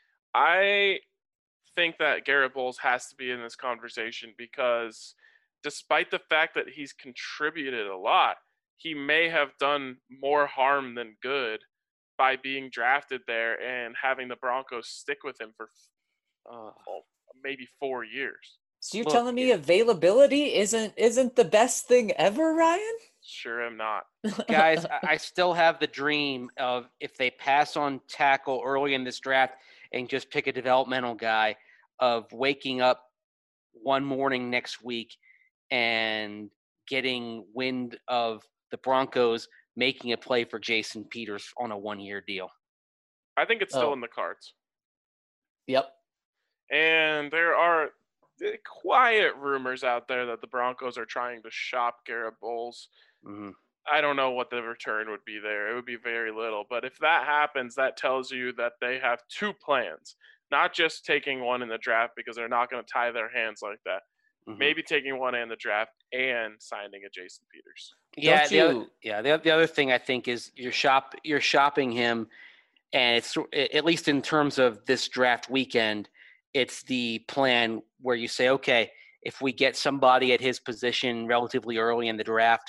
I think that Garrett Bowles has to be in this conversation because despite the fact that he's contributed a lot, he may have done more harm than good by being drafted there and having the Broncos stick with him for uh, maybe four years. So you're Look, telling me yeah. availability isn't isn't the best thing ever, Ryan? Sure am not. Guys, I, I still have the dream of if they pass on tackle early in this draft and just pick a developmental guy, of waking up one morning next week and getting wind of the Broncos making a play for Jason Peters on a one-year deal. I think it's still Oh. in the cards. Yep. And there are uh, quiet rumors out there that the Broncos are trying to shop Garrett Bowles. Mm-hmm. I don't know what the return would be there. It would be very little. But if that happens, that tells you that they have two plans, not just taking one in the draft because they're not going to tie their hands like that. Mm-hmm. Maybe taking one in the draft and signing a Jason Peters. Yeah, Don't the other, you- yeah. The, the other thing I think is you're shop you're shopping him, and it's at least in terms of this draft weekend, it's the plan where you say, okay, if we get somebody at his position relatively early in the draft,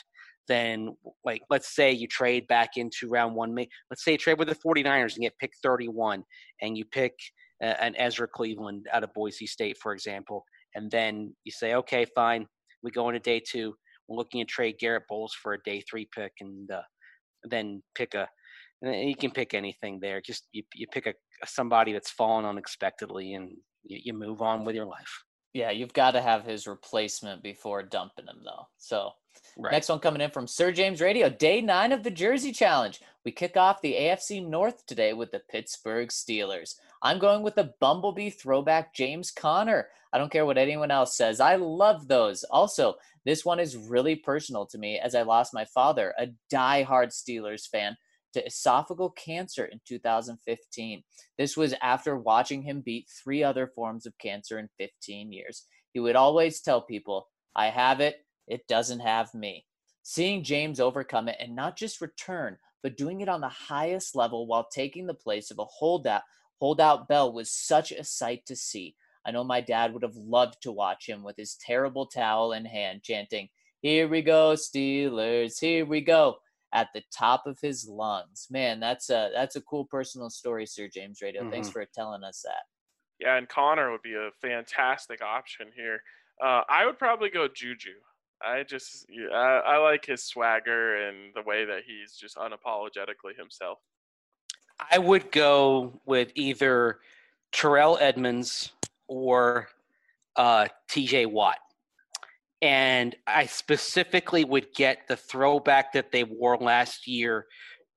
then like let's say you trade back into round one. Let's say you trade with the 49ers and get pick thirty-one, and you pick uh, an Ezra Cleveland out of Boise State, for example, and then you say, okay, fine, we go into day two. We're looking at trade Garrett Bowles for a day three pick, and uh, then pick a. And you can pick anything there. Just you, you pick a somebody that's fallen unexpectedly, and you, you move on with your life. Yeah, you've got to have his replacement before dumping him, though. So, right. Next one coming in from Sir James Radio, day nine of the Jersey Challenge. We kick off the A F C North today with the Pittsburgh Steelers. I'm going with the Bumblebee throwback James Conner. I don't care what anyone else says. I love those. Also, this one is really personal to me as I lost my father, a diehard Steelers fan, to esophageal cancer in two thousand fifteen. This was after watching him beat three other forms of cancer in fifteen years. He would always tell people, I have it, it doesn't have me. Seeing James overcome it and not just return, but doing it on the highest level while taking the place of a holdout, holdout Bell was such a sight to see. I know my dad would have loved to watch him with his terrible towel in hand, chanting, here we go, Steelers, here we go, at the top of his lungs. Man, that's a that's a cool personal story, Sir James Radio. Mm-hmm. Thanks for telling us that. Yeah, and Connor would be a fantastic option here. Uh, I would probably go Juju. I just yeah, I, I like his swagger and the way that he's just unapologetically himself. I would go with either Terrell Edmonds or uh, T J Watt. And I specifically would get the throwback that they wore last year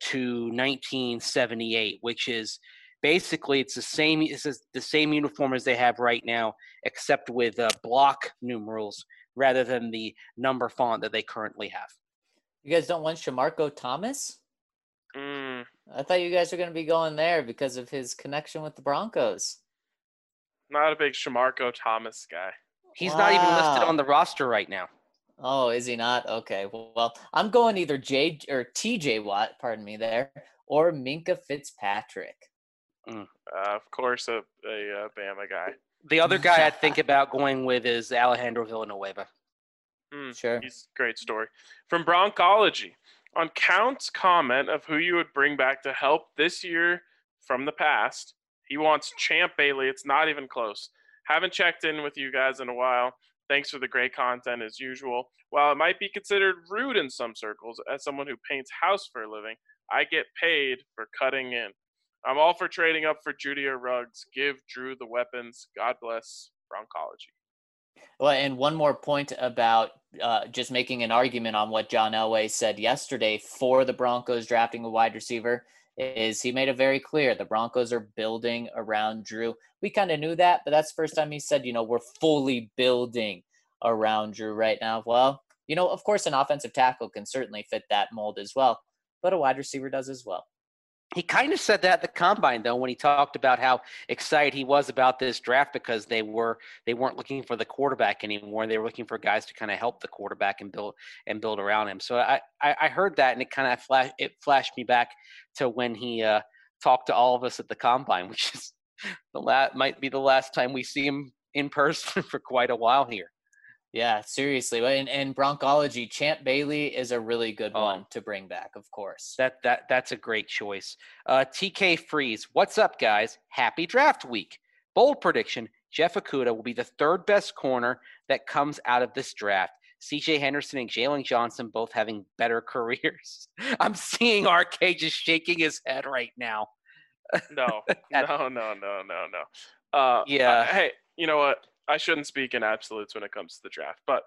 to nineteen seventy-eight, which is basically it's the same it's the same uniform as they have right now, except with uh, block numerals rather than the number font that they currently have. You guys don't want Shamarko Thomas? Mm. I thought you guys were going to be going there because of his connection with the Broncos. Not a big Shamarko Thomas guy. He's wow. not even listed on the roster right now. Oh, is he not? Okay. Well, well, I'm going either J or T J Watt, pardon me there, or Minkah Fitzpatrick. Mm. Uh, of course, a, a, a Bama guy. The other guy I'd think about going with is Alejandro Villanueva. Mm, sure. He's a great story. From Broncology, on Count's comment of who you would bring back to help this year from the past, he wants Champ Bailey. It's not even close. Haven't checked in with you guys in a while. Thanks for the great content as usual. While it might be considered rude in some circles, as someone who paints house for a living, I get paid for cutting in. I'm all for trading up for Judy or Ruggs. Give Drew the weapons. God bless Broncology. Well, and one more point about uh, just making an argument on what John Elway said yesterday for the Broncos drafting a wide receiver is he made it very clear the Broncos are building around Drew. We kind of knew that, but that's the first time he said, you know, we're fully building around Drew right now. Well, you know, of course, an offensive tackle can certainly fit that mold as well, but a wide receiver does as well. He kind of said that at the combine, though, when he talked about how excited he was about this draft because they were they weren't looking for the quarterback anymore. They were looking for guys to kind of help the quarterback and build and build around him. So I, I, I heard that, and it kind of flash it flashed me back to when he uh, talked to all of us at the combine, which is the la- might be the last time we see him in person for quite a while here. Yeah, seriously. And, and Broncology, Champ Bailey is a really good oh, one to bring back, of course. That that That's a great choice. Uh, T K Freeze, what's up, guys? Happy draft week. Bold prediction, Jeff Okudah will be the third best corner that comes out of this draft. C J Henderson and Jalen Johnson both having better careers. I'm seeing R K just shaking his head right now. No, no, no, no, no, no. Uh, yeah. Uh, hey, you know what? I shouldn't speak in absolutes when it comes to the draft, but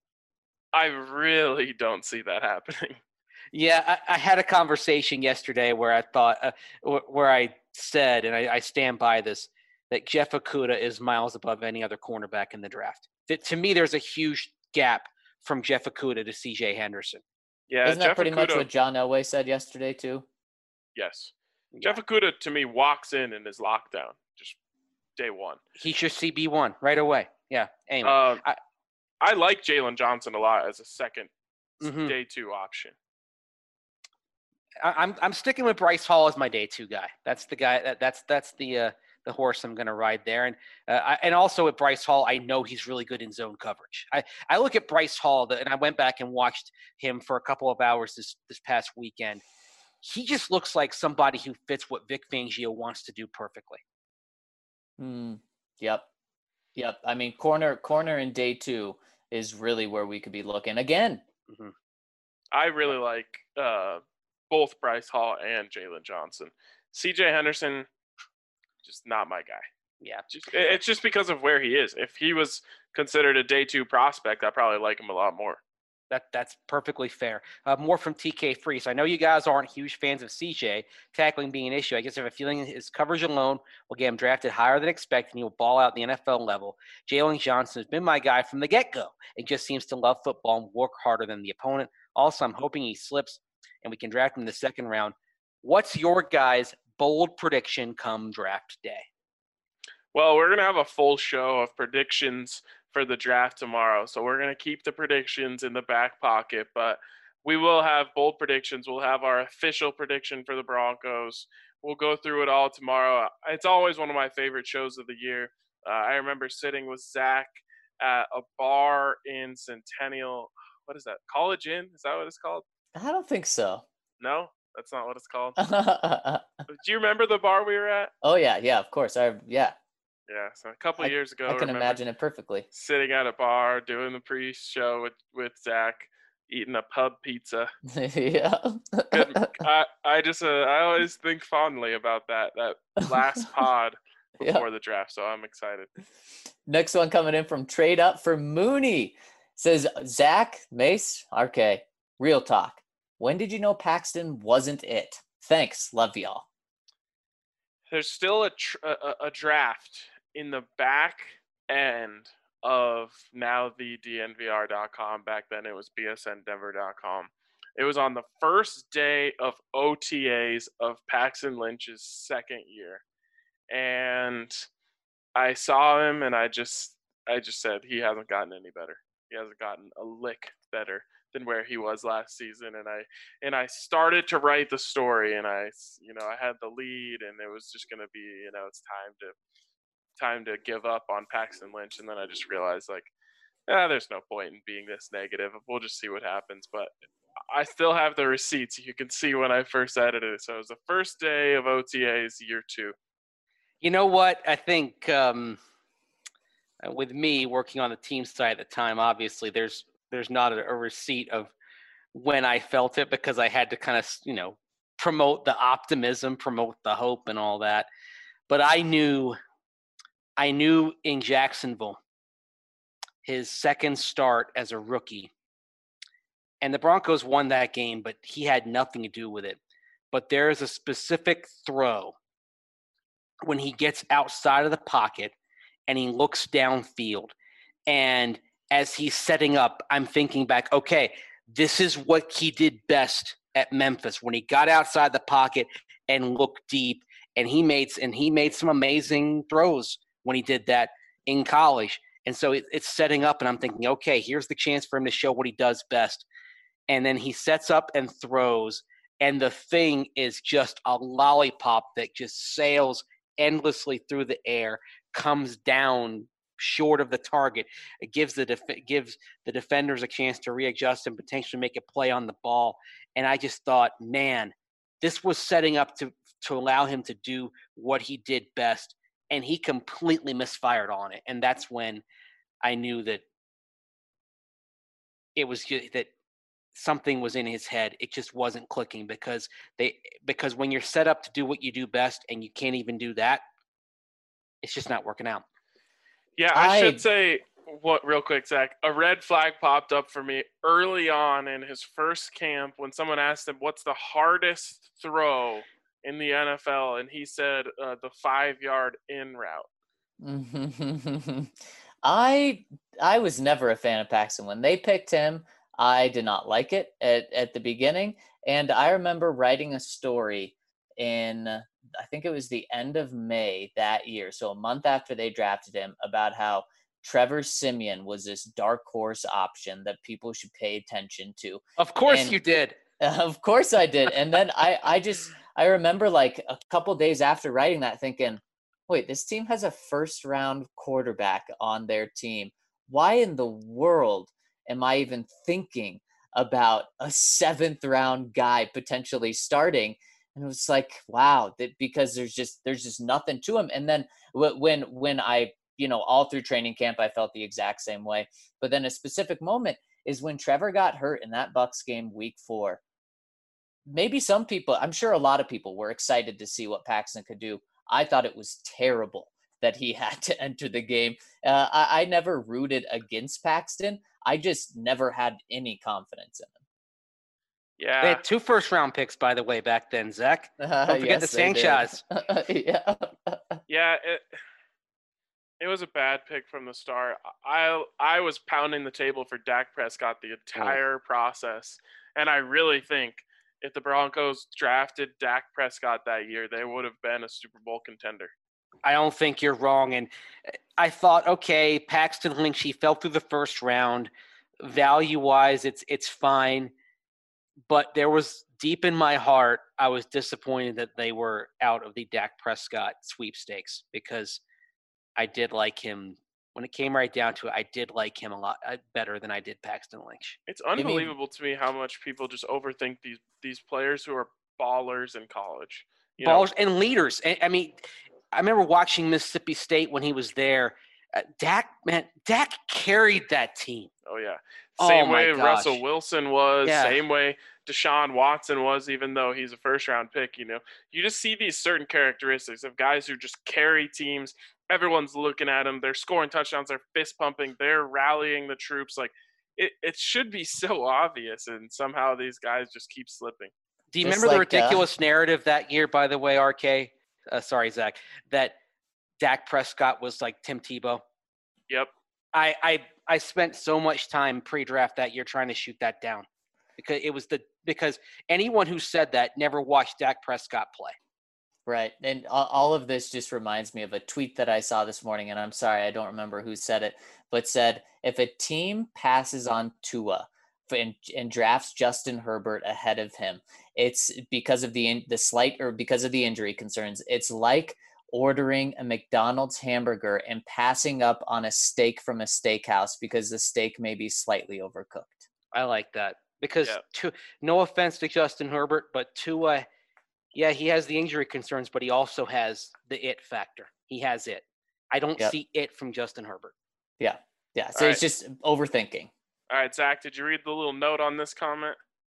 I really don't see that happening. Yeah, I, I had a conversation yesterday where I thought, uh, where I said, and I, I stand by this, that Jeff Okudah is miles above any other cornerback in the draft. That, to me, there's a huge gap from Jeff Okudah to C J Henderson. Yeah, Isn't Jeff that pretty Okudah, much what John Elway said yesterday too? Yes. Yeah. Jeff Okudah, to me, walks in and is lockdown. Just day one. He's your C B one right away. Yeah. Anyway, uh, I, I like Jalen Johnson a lot as a second mm-hmm. day two option. I, I'm I'm sticking with Bryce Hall as my day two guy. That's the guy. That, that's that's the uh, the horse I'm going to ride there. And uh, I, and also with Bryce Hall, I know he's really good in zone coverage. I, I look at Bryce Hall, and I went back and watched him for a couple of hours this, this past weekend. He just looks like somebody who fits what Vic Fangio wants to do perfectly. Mm, yep. Yep. I mean, corner corner in day two is really where we could be looking again. Mm-hmm. I really like uh, both Bryce Hall and Jalen Johnson. C J Henderson, just not my guy. Yeah. Just, it's just because of where he is. If he was considered a day two prospect, I probably like him a lot more. That That's perfectly fair. Uh, more from T K Free. So I know you guys aren't huge fans of C J, tackling being an issue. I guess I have a feeling his coverage alone will get him drafted higher than expected, and he will ball out at the N F L level. Jalen Johnson has been my guy from the get-go and just seems to love football and work harder than the opponent. Also, I'm hoping he slips and we can draft him in the second round. What's your guys' bold prediction come draft day? Well, we're going to have a full show of predictions for the draft tomorrow. So we're going to keep the predictions in the back pocket, but we will have bold predictions. We'll have our official prediction for the Broncos. We'll go through it all tomorrow. It's always one of my favorite shows of the year. Uh, I remember sitting with Zach at a bar in Centennial. What is that? College Inn? Is that what it's called? I don't think so. No, that's not what it's called. Do you remember the bar we were at? Oh yeah, yeah, of course. I yeah. Yeah, so a couple I, of years ago, I can imagine it perfectly. Sitting at a bar, doing the pre-show with, with Zach, eating a pub pizza. Yeah. Good. I I just uh, I always think fondly about that that last pod before yeah. the draft, so I'm excited. Next one coming in from Trade Up for Mooney. Says Zach, Mace, R K, real talk. When did you know Paxton wasn't it? Thanks. Love y'all. There's still a, tr- a, a draft in the back end of now the D N V R dot com. Back then it was B S N Denver dot com. It was on the first day of O T As of Paxton Lynch's second year. And I saw him and I just I just said he hasn't gotten any better. He hasn't gotten a lick better than where he was last season. And I and I started to write the story, and I you know I had the lead, and it was just gonna be you know it's time to time to give up on Paxton Lynch. And then I just realized like, ah, there's no point in being this negative. We'll just see what happens. But I still have the receipts. You can see when I first edited it. So it was the first day of O T As, year two. You know what? I think um, with me working on the team side at the time, obviously there's there's not a, a receipt of when I felt it, because I had to kind of, you know, promote the optimism, promote the hope and all that. But I knew, I knew in Jacksonville, his second start as a rookie, and the Broncos won that game, but he had nothing to do with it. But there is a specific throw when he gets outside of the pocket and he looks downfield, and as he's setting up, I'm thinking back, okay, this is what he did best at Memphis, when he got outside the pocket and looked deep, and he made and he made some amazing throws when he did that in college. And so it, it's setting up, and I'm thinking, okay, here's the chance for him to show what he does best. And then he sets up and throws, and the thing is just a lollipop that just sails endlessly through the air, comes down short of the target. It gives the def- gives the defenders a chance to readjust and potentially make a play on the ball. And I just thought, man, this was setting up to to allow him to do what he did best, and he completely misfired on it. And that's when I knew that it was just, that something was in his head. It just wasn't clicking, because they because when you're set up to do what you do best and you can't even do that, it's just not working out. Yeah, I, I should say what real quick, Zach. A red flag popped up for me early on in his first camp when someone asked him, "What's the hardest throw in the N F L?" And he said, uh, "The five-yard in route." I I was never a fan of Paxton. When they picked him, I did not like it at, at the beginning. And I remember writing a story in, I think it was the end of May that year, so a month after they drafted him, about how Trevor Siemian was this dark horse option that people should pay attention to. Of course and, you did. Of course I did. And then I, I just, I remember like a couple days after writing that thinking, wait, this team has a first round quarterback on their team. Why in the world am I even thinking about a seventh round guy potentially starting? And it was like, wow, that because there's just there's just nothing to him. And then when when I you know all through training camp I felt the exact same way. But then a specific moment is when Trevor got hurt in that Bucks game week four. Maybe some people, I'm sure a lot of people were excited to see what Paxton could do. I thought it was terrible that he had to enter the game. Uh, I, I never rooted against Paxton. I just never had any confidence in him. Yeah. They had two first round picks, by the way, back then, Zach. Uh, Don't forget yes, the they did. Sanchez. yeah. Yeah, it it was a bad pick from the start. I I was pounding the table for Dak Prescott the entire process, and I really think if the Broncos drafted Dak Prescott that year, they would have been a Super Bowl contender. I don't think you're wrong. And I thought, okay, Paxton Lynch, he fell through the first round. Value-wise, it's it's fine. But there was deep in my heart, I was disappointed that they were out of the Dak Prescott sweepstakes because I did like him. When it came right down to it, I did like him a lot better than I did Paxton Lynch. It's unbelievable to me how much people just overthink these these players who are ballers in college. You Ballers know? and leaders. I mean, I remember watching Mississippi State when he was there. Uh, Dak, man, Dak carried that team. Oh, yeah. Oh, Same my way gosh. Russell Wilson was, Yeah. same way Deshaun Watson was, even though he's a first-round pick, you know. You just see these certain characteristics of guys who just carry teams. Everyone's looking at them. They're scoring touchdowns. They're fist-pumping. They're rallying the troops. Like, it, it should be so obvious, and somehow these guys just keep slipping. Do you Just remember the like, uh, ridiculous narrative that year, by the way, R K? Uh, sorry, Zach, that Dak Prescott was like Tim Tebow? Yep. I, I I spent so much time pre-draft that year trying to shoot that down because it was the because anyone who said that never watched Dak Prescott play. Right. And all all of this just reminds me of a tweet that I saw this morning, and I'm sorry, I don't remember who said it, but said, if a team passes on Tua and, and drafts Justin Herbert ahead of him, it's because of the the slight or because of the injury concerns. It's like ordering a McDonald's hamburger and passing up on a steak from a steakhouse because the steak may be slightly overcooked. I like that because Yeah. to, no offense to Justin Herbert, but Tua, yeah, he has the injury concerns, but he also has the it factor. He has it. I don't Yep. see it from Justin Herbert. Yeah. Yeah. So All it's just overthinking. All right, Zach, did you read the little note on this comment?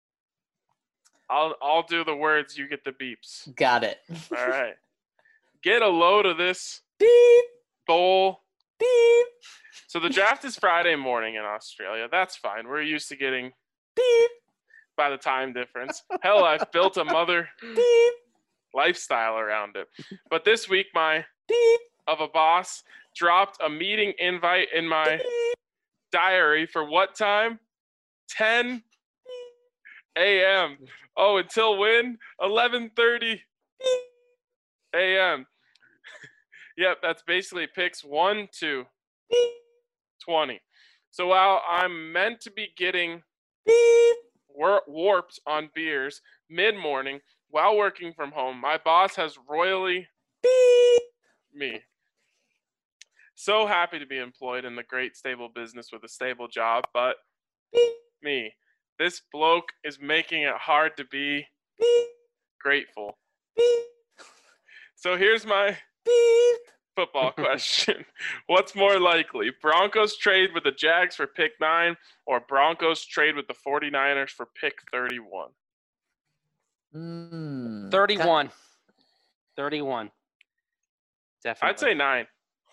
I'll I'll do the words, you get the beeps. Got it. All right. Get a load of this Beep. bowl. Beep. So the draft is Friday morning in Australia. That's fine. We're used to getting Beep. by the time difference. Hell, I've built a mother Beep. lifestyle around it. But this week, my Beep. of a boss dropped a meeting invite in my diary for what time? ten a.m. Oh, until when? eleven thirty a.m. Yep, that's basically picks one to twenty. So while I'm meant to be getting war- warped on beers mid-morning while working from home, my boss has royally me. So happy to be employed in the great stable business with a stable job, but me. This bloke is making it hard to be grateful. So here's my football question. What's more likely? Broncos trade with the Jags for pick nine or Broncos trade with the 49ers for pick thirty-one? Mm. thirty-one. thirty-one. Definitely. I'd say nine.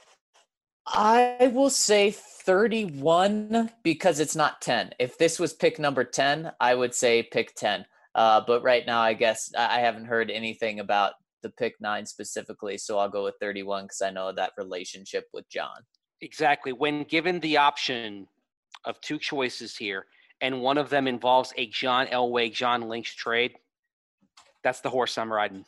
I will say thirty-one because it's not ten. If this was pick number ten, I would say pick ten. Uh, but right now, I guess I haven't heard anything about the pick nine specifically, so I'll go with thirty-one because I know that relationship with John. Exactly. When given the option of two choices here, and one of them involves a John Elway, John Lynch trade, that's the horse I'm riding.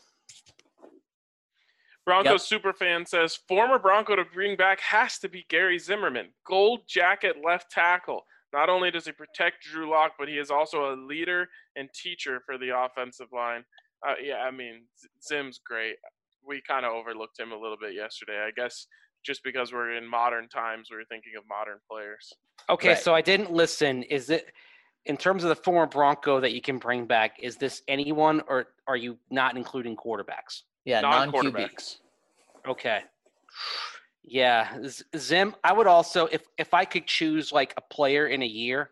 Broncos yep. Superfan says, former Bronco to bring back has to be Gary Zimmerman. Gold jacket left tackle. Not only does he protect Drew Lock, but he is also a leader and teacher for the offensive line. Uh, yeah, I mean, Zim's great. we kind of overlooked him a little bit yesterday. I guess just because we're in modern times, we were thinking of modern players. Okay, Right. so I didn't listen. Is it in terms of the former Bronco that you can bring back? Is this anyone, or are you not including quarterbacks? Yeah, non-Q B. Non-quarterbacks. Okay. Yeah, Z- Zim. I would also, if if I could choose like a player in a year,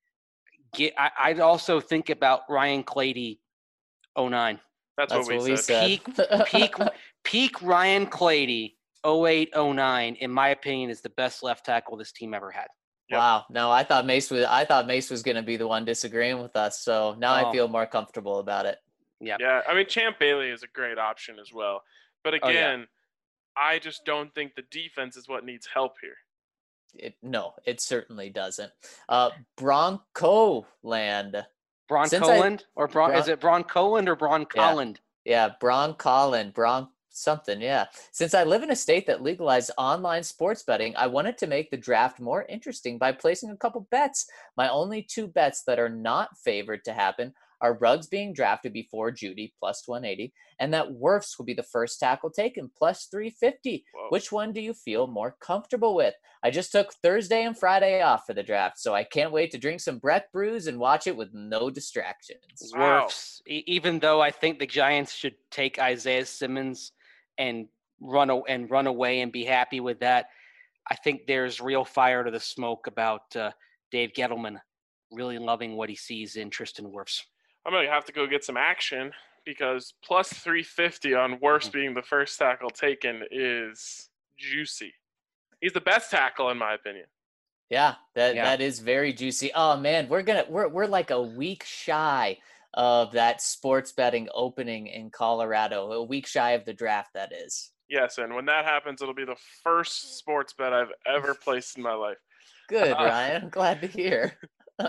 get. I, I'd also think about Ryan Clady, oh nine. That's, That's what we what we said. said. Peak, peak, peak Ryan Clady, oh eight, oh nine, in my opinion, is the best left tackle this team ever had. Yep. Wow. No, I thought Mace was. I thought Mace was going to be the one disagreeing with us. So now I Oh. feel more comfortable about it. Yeah. Yeah, I mean, Champ Bailey is a great option as well. But Oh, yeah. again, I just don't think the defense is what needs help here. It, no, it certainly doesn't. Uh, Bronco land. Since I- Broncoland or Bron, Bron- is it Broncoland or Broncoland? Yeah, Broncolin, Bron something, yeah. Since I live in a state that legalized online sports betting, I wanted to make the draft more interesting by placing a couple bets. My only two bets that are not favored to happen are Ruggs being drafted before Judy, plus one eighty, and that Wirfs will be the first tackle taken, plus three fifty. Whoa. Which one do you feel more comfortable with? I just took Thursday and Friday off for the draft, so I can't wait to drink some Breck brews and watch it with no distractions. Wow. Wirfs. E- even though I think the Giants should take Isaiah Simmons and run a- and run away and be happy with that, I think there's real fire to the smoke about uh, Dave Gettleman really loving what he sees in Tristan Wirfs. I'm going to have to go get some action because plus three fifty on Wirfs Mhm. being the first tackle taken is juicy. He's the best tackle in my opinion. Yeah, that Yeah. that is very juicy. Oh man, we're gonna we're we're like a week shy of that sports betting opening in Colorado. A week shy of the draft, that is. Yes, and when that happens, it'll be the first sports bet I've ever placed in my life. Good, Uh, Ryan. I'm glad to hear.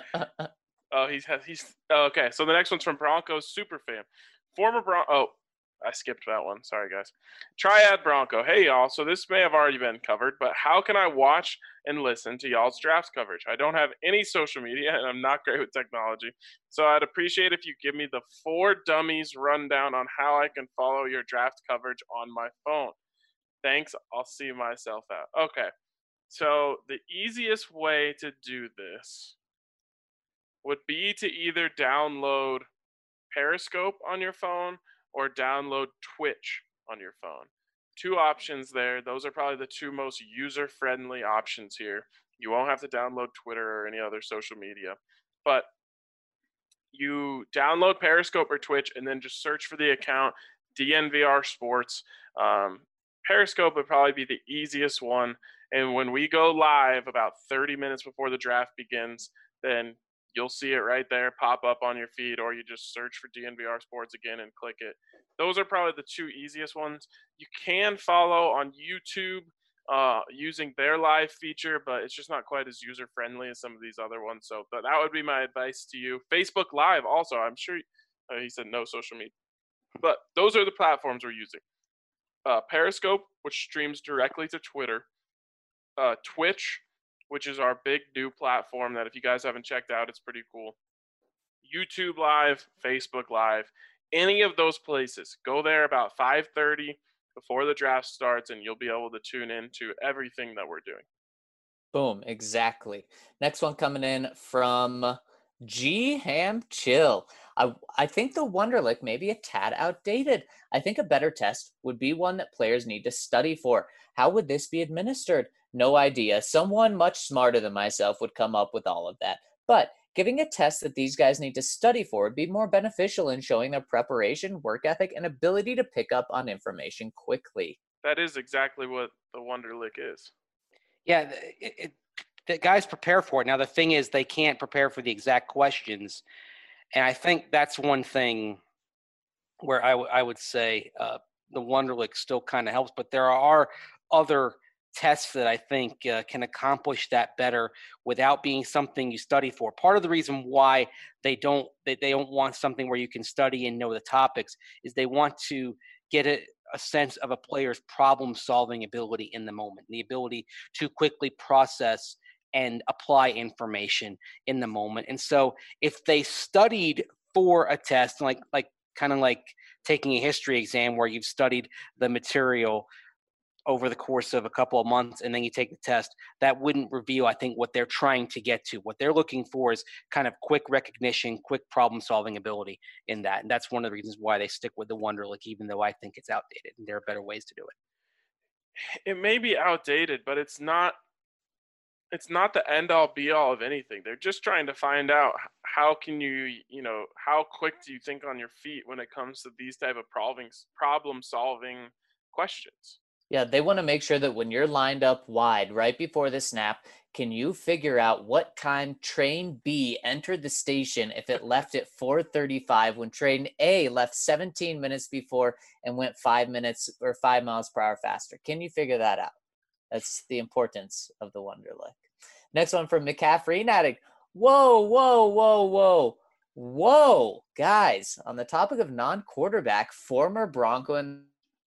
Oh, he's he's oh, okay. So the next one's from Broncos Superfan. Former Bron. Oh, I skipped that one. Sorry, guys. Triad Bronco. Hey, y'all. So this may have already been covered, but how can I watch and listen to y'all's drafts coverage? I don't have any social media, and I'm not great with technology. So I'd appreciate if you give me the four dummies rundown on how I can follow your draft coverage on my phone. Thanks. I'll see myself out. Okay. So the easiest way to do this would be to either download Periscope on your phone or download Twitch on your phone. Two options there. Those are probably the two most user-friendly options here. You won't have to download Twitter or any other social media. But you download Periscope or Twitch and then just search for the account D N V R Sports. Um, Periscope would probably be the easiest one. And when we go live about thirty minutes before the draft begins, then you'll see it right there pop up on your feed, or you just search for D N V R Sports again and click it. Those are probably the two easiest ones. You can follow on YouTube uh, using their live feature, but it's just not quite as user-friendly as some of these other ones. So but that would be my advice to you. Facebook Live also, I'm sure uh, he said no social media. But those are the platforms we're using. Uh, Periscope, which streams directly to Twitter. Uh, Twitch, which is our big new platform that if you guys haven't checked out, it's pretty cool. YouTube Live, Facebook Live, any of those places. Go there about five thirty before the draft starts, and you'll be able to tune in to everything that we're doing. Boom, exactly. Next one coming in from G Ham Chill. I I think the Wonderlic may be a tad outdated. I think a better test would be one that players need to study for. How would this be administered? No idea. Someone much smarter than myself would come up with all of that. But giving a test that these guys need to study for would be more beneficial in showing their preparation, work ethic, and ability to pick up on information quickly. That is exactly what the Wonderlic is. Yeah, th- it, it, the guys prepare for it. Now, the thing is, they can't prepare for the exact questions. And I think that's one thing where I, w- I would say uh, the Wonderlic still kind of helps. But there are other tests that I think uh, can accomplish that better without being something you study for. Part of the reason why they don't they, they don't want something where you can study and know the topics is they want to get a, a sense of a player's problem-solving ability in the moment, the ability to quickly process and apply information in the moment. And so if they studied for a test, like like kind of like taking a history exam where you've studied the material over the course of a couple of months and then you take the test. That wouldn't reveal, I think, what they're trying to get to. What they're looking for is kind of quick recognition, quick problem solving ability in that. And that's one of the reasons why they stick with the Wonderlic, even though I think it's outdated and there are better ways to do it. It may be outdated, but it's not it's not the end all be all of anything. They're just trying to find out how can you, you know, how quick do you think on your feet when it comes to these type of problem problem solving questions. Yeah, they want to make sure that when you're lined up wide right before the snap, can you figure out what time train B entered the station if it left at four thirty-five when train A left seventeen minutes before and went five minutes or five miles per hour faster? Can you figure that out? That's the importance of the Wonderlic. Next one from McCaffrey Addict. Whoa, whoa, whoa, whoa. Whoa, guys, on the topic of non-quarterback, former Bronco and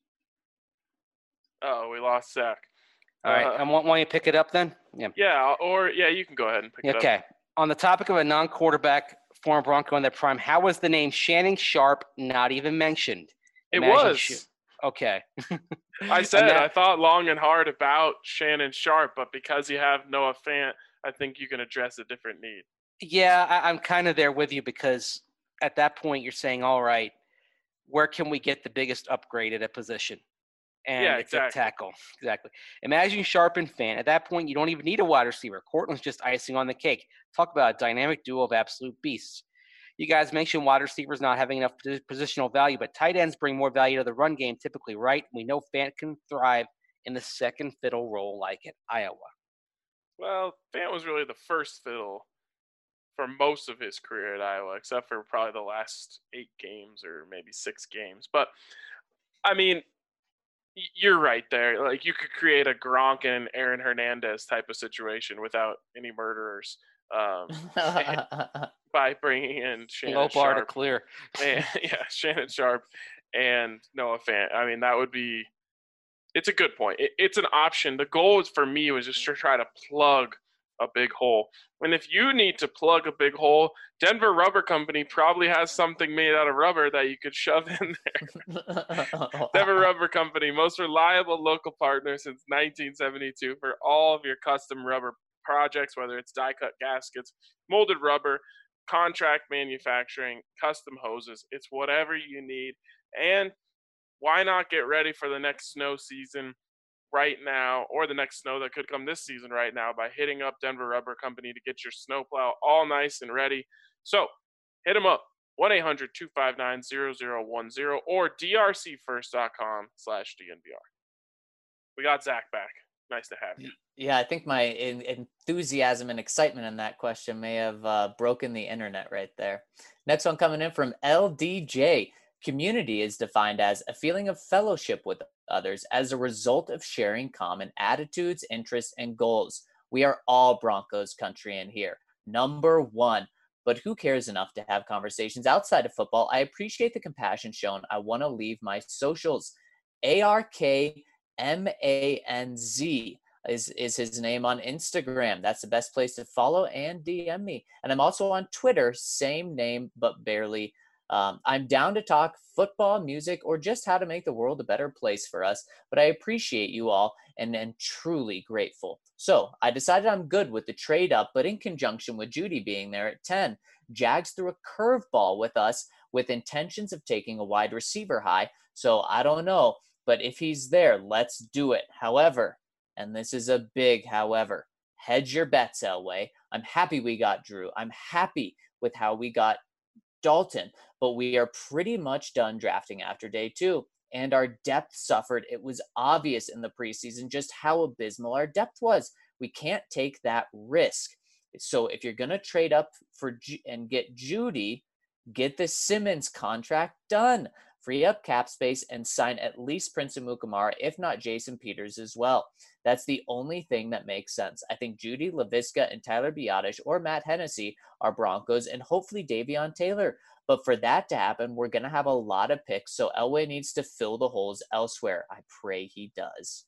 Oh, we lost Zach. All right, Uh, I want, want you to pick it up then? Yeah. Yeah, or yeah, you can go ahead and pick it up. Okay. On the topic of a non-quarterback, former Bronco in their prime, how was the name Shannon Sharp not even mentioned? It Imagine was. Sh- okay. I said that- I thought long and hard about Shannon Sharp, but because you have Noah Fant, I think you can address a different need. Yeah, I, I'm kind of there with you because at that point you're saying, all right, where can we get the biggest upgrade at a position? And Yeah, it's exactly. a tackle. Exactly. Imagine Sharp and Fant. At that point, you don't even need a wide receiver. Cortland's just icing on the cake. Talk about a dynamic duo of absolute beasts. You guys mentioned wide receivers not having enough positional value, but tight ends bring more value to the run game typically, right? We know Fant can thrive in the second fiddle role like at Iowa. Well, Fant was really the first fiddle for most of his career at Iowa, except for probably the last eight games or maybe six games. But, I mean, you're right there. Like, you could create a Gronk and Aaron Hernandez type of situation without any murderers um, by bringing in Shannon Low bar to Sharp. clear. And, yeah, Shannon Sharp and Noah Fant. I mean, that would be – it's a good point. It, it's an option. The goal is for me was just to try to plug a big hole. And if you need to plug a big hole, Denver Rubber Company probably has something made out of rubber that you could shove in there. Denver Rubber Company, most reliable local partner since nineteen seventy-two for all of your custom rubber projects, whether it's die-cut gaskets, molded rubber, contract manufacturing, custom hoses. It's whatever you need. And why not get ready for the next snow season right now, or the next snow that could come this season right now, by hitting up Denver Rubber Company to get your snowplow all nice and ready. So hit them up, one eight hundred two five nine zero zero one zero or d r c first dot com slash D N V R. We got Zach back. Nice to have you. Yeah, I think my en- enthusiasm and excitement in that question may have uh, broken the internet right there. Next one coming in from L D J. Community is defined as a feeling of fellowship with others as a result of sharing common attitudes, interests, and goals. We are all Broncos country in here. Number one. But who cares enough to have conversations outside of football? I appreciate the compassion shown. I want to leave my socials. A R K M A N Z is, is his name on Instagram. That's the best place to follow and D M me. And I'm also on Twitter, same name, but barely. Um, I'm down to talk football, music, or just how to make the world a better place for us. But I appreciate you all and am truly grateful. So I decided I'm good with the trade up, but in conjunction with Judy being there at ten, Jags threw a curveball with us with intentions of taking a wide receiver high. So I don't know, but if he's there, let's do it. However, and this is a big however, hedge your bets, Elway. I'm happy we got Drew. I'm happy with how we got Dalton, but we are pretty much done drafting after day two. And our depth suffered. It was obvious in the preseason just how abysmal our depth was. We can't take that risk. So if you're going to trade up for and get Judy, get the Simmons contract done. Free up cap space and sign at least Prince Amukamara, if not Jason Peters as well. That's the only thing that makes sense. I think Judy, LaVisca, and Tyler Biadasz or Matt Hennessy are Broncos, and hopefully Davion Taylor. But for that to happen, we're going to have a lot of picks, so Elway needs to fill the holes elsewhere. I pray he does.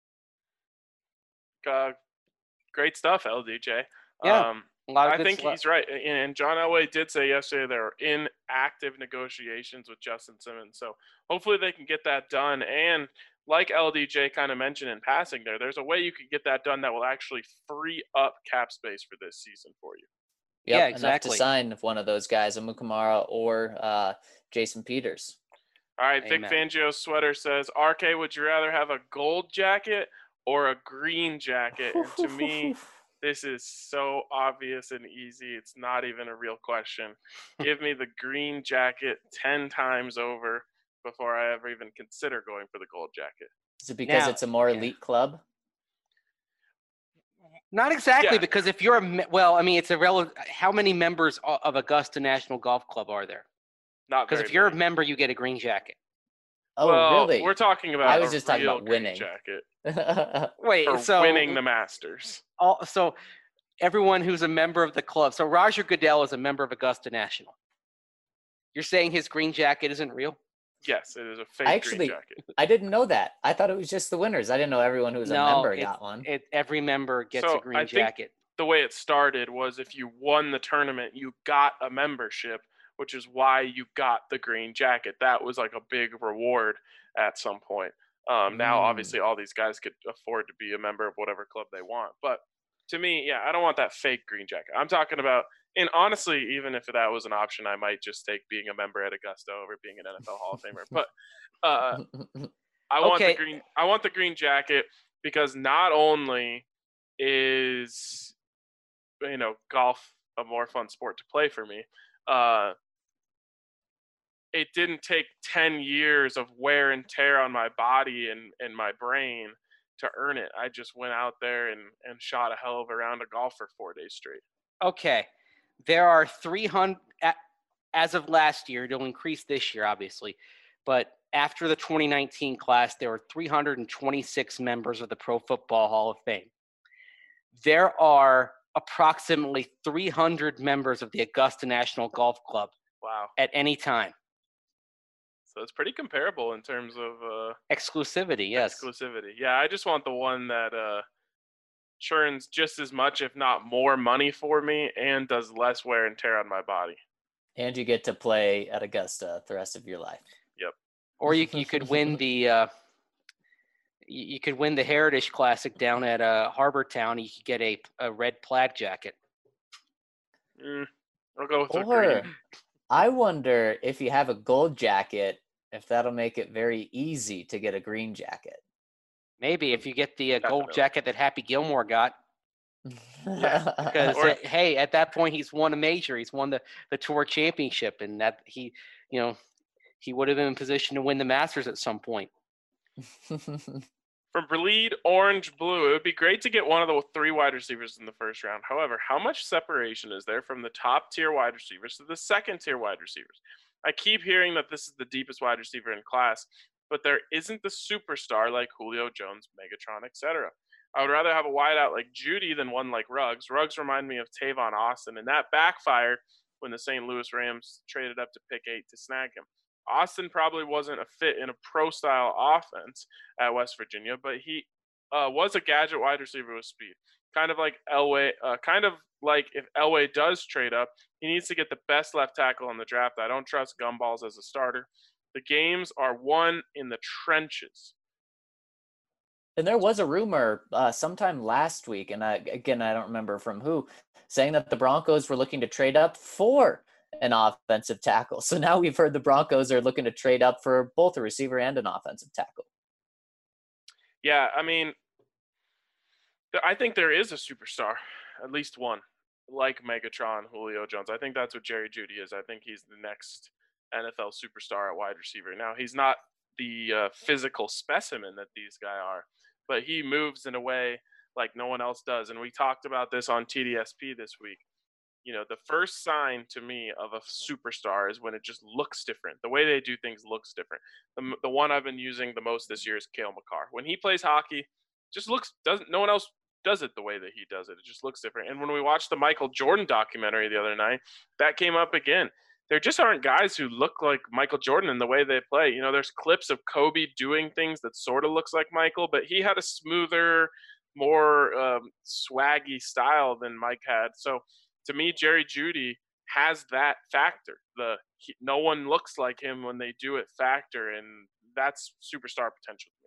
Uh, great stuff, L D J. Yeah, Um, a lot of I good think stuff. he's right. And John Elway did say yesterday they're in active negotiations with Justin Simmons. So hopefully they can get that done. And like L D J kind of mentioned in passing there, there's a way you could get that done that will actually free up cap space for this season for you. Yep, Yeah, enough exactly. to sign one of those guys, Amukamara or uh, Jason Peters. All right, Amen. Vic Fangio's sweater says, R K, would you rather have a gold jacket or a green jacket? And to me, this is so obvious and easy. It's not even a real question. Give me the green jacket ten times over before I ever even consider going for the gold jacket. Is it because Now- it's a more yeah. elite club? Not exactly, Yeah. because if you're a me- well, I mean, it's a rel- how many members o- of Augusta National Golf Club are there? Not Because very if you're a many. member, you get a green jacket. Oh, well, really? we're talking about I was a just talking real about green winning. jacket Wait, for so winning the Masters. all, so everyone who's a member of the club. So Roger Goodell is a member of Augusta National. You're saying his green jacket isn't real? Yes, it is a fake I actually- green jacket. I didn't know that. I thought it was just the winners. I didn't know everyone who was a No, member it- got one. It, every member gets So, a green I think- jacket. The way it started was if you won the tournament, you got a membership, which is why you got the green jacket. That was like a big reward at some point. Um, now, Mm. obviously, all these guys could afford to be a member of whatever club they want. But to me, yeah, I don't want that fake green jacket. I'm talking about, and honestly, even if that was an option, I might just take being a member at Augusta over being an N F L Hall of Famer. But uh, I want Okay. the green. I want the green jacket because not only is you know golf a more fun sport to play for me, uh, it didn't take ten years of wear and tear on my body and, and my brain to earn it. I just went out there and, and shot a hell of a round of golf for four days straight. Okay. There are three hundred, a- as of last year, it'll increase this year, obviously. But after the twenty nineteen class, there were three hundred twenty-six members of the Pro Football Hall of Fame. There are approximately three hundred members of the Augusta National Golf Club Wow. at any time. So it's pretty comparable in terms of uh, Exclusivity, yes. exclusivity. Yeah, I just want the one that uh, churns just as much, if not more, money for me and does less wear and tear on my body. And you get to play at Augusta the rest of your life. Or you you could win the uh, you, you could win the Heritage Classic down at uh, Harbor Town. You could get a, a red plaid jacket. Mm, I'll go with the Or green. I wonder if you have a gold jacket, if that'll make it very easy to get a green jacket. Maybe if you get the uh, gold Definitely. jacket that Happy Gilmore got, because Or- uh, hey, at that point he's won a major. He's won the, the Tour Championship, and that he, you know, he would have been in position to win the Masters at some point. From Bleed Orange Blue, it would be great to get one of the three wide receivers in the first round. However, how much separation is there from the top tier wide receivers to the second tier wide receivers? I keep hearing that this is the deepest wide receiver in class, but there isn't the superstar like Julio Jones, Megatron, et cetera. I would rather have a wideout like Judy than one like Ruggs. Ruggs remind me of Tavon Austin, and that backfired when the Saint Louis Rams traded up to pick eight to snag him. Austin probably wasn't a fit in a pro-style offense at West Virginia, but he uh, was a gadget wide receiver with speed. Kind of like Elway, uh, kind of like if Elway does trade up, he needs to get the best left tackle in the draft. I don't trust Gumballs as a starter. The games are won in the trenches. And there was a rumor uh, sometime last week, and I, again, I don't remember from who, saying that the Broncos were looking to trade up for an offensive tackle. So now we've heard the Broncos are looking to trade up for both a receiver and an offensive tackle. Yeah, I mean, th- I think there is a superstar, at least one, like Megatron, Julio Jones. I think that's what Jerry Jeudy is. I think he's the next N F L superstar at wide receiver. Now, he's not the uh, physical specimen that these guys are, but he moves in a way like no one else does. And we talked about this on T D S P this week. You know, the first sign to me of a superstar is when it just looks different. The way they do things looks different. The, the one I've been using the most this year is Cale Makar. When he plays hockey, just looks doesn't no one else does it the way that he does it. It just looks different. And when we watched the Michael Jordan documentary the other night, that came up again. There just aren't guys who look like Michael Jordan in the way they play. You know, there's clips of Kobe doing things that sort of looks like Michael, but he had a smoother, more um, swaggy style than Mike had. So to me, Jerry Jeudy has that factor. The he, no one looks like him when they do it factor, and that's superstar potential to me.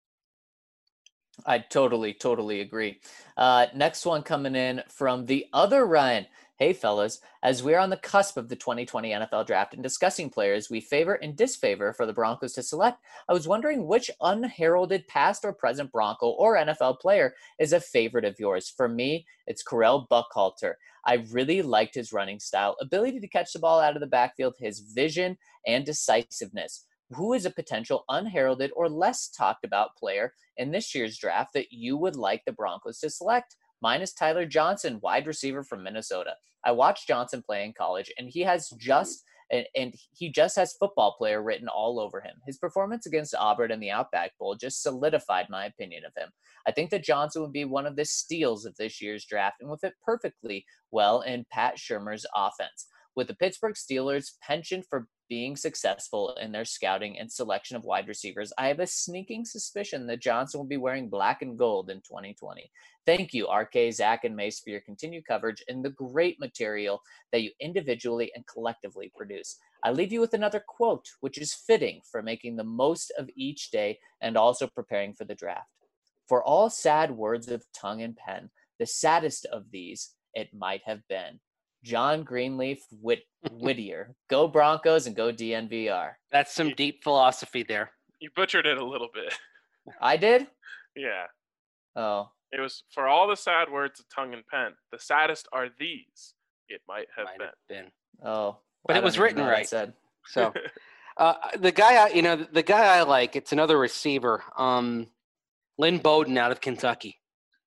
I totally, totally agree. Uh, next one coming in from the other Ryan. Hey, fellas, as we're on the cusp of the twenty twenty N F L draft and discussing players we favor and disfavor for the Broncos to select, I was wondering which unheralded past or present Bronco or N F L player is a favorite of yours. For me, it's Correll Buckhalter. I really liked his running style, ability to catch the ball out of the backfield, his vision, and decisiveness. Who is a potential unheralded or less talked about player in this year's draft that you would like the Broncos to select? Mine is Tyler Johnson, wide receiver from Minnesota. I watched Johnson play in college, and he has just and, and he just has football player written all over him. His performance against Auburn in the Outback Bowl just solidified my opinion of him. I think that Johnson would be one of the steals of this year's draft and would fit perfectly well in Pat Shurmur's offense. With the Pittsburgh Steelers' penchant for being successful in their scouting and selection of wide receivers, I have a sneaking suspicion that Johnson will be wearing black and gold in twenty twenty. Thank you, R K, Zach, and Mace, for your continued coverage and the great material that you individually and collectively produce. I leave you with another quote, which is fitting for making the most of each day and also preparing for the draft. For all sad words of tongue and pen, the saddest of these it might have been. John Greenleaf Whit- Whittier. Go Broncos and go D N V R. That's some deep philosophy there. You butchered it a little bit. I did? Yeah. Oh. It was for all the sad words of tongue and pen. The saddest are these. It might have Might been. have been. Oh. But I it was don't even written know what I right. said. So uh, the guy, I, you know, the guy I like, it's another receiver, um, Lynn Bowden out of Kentucky.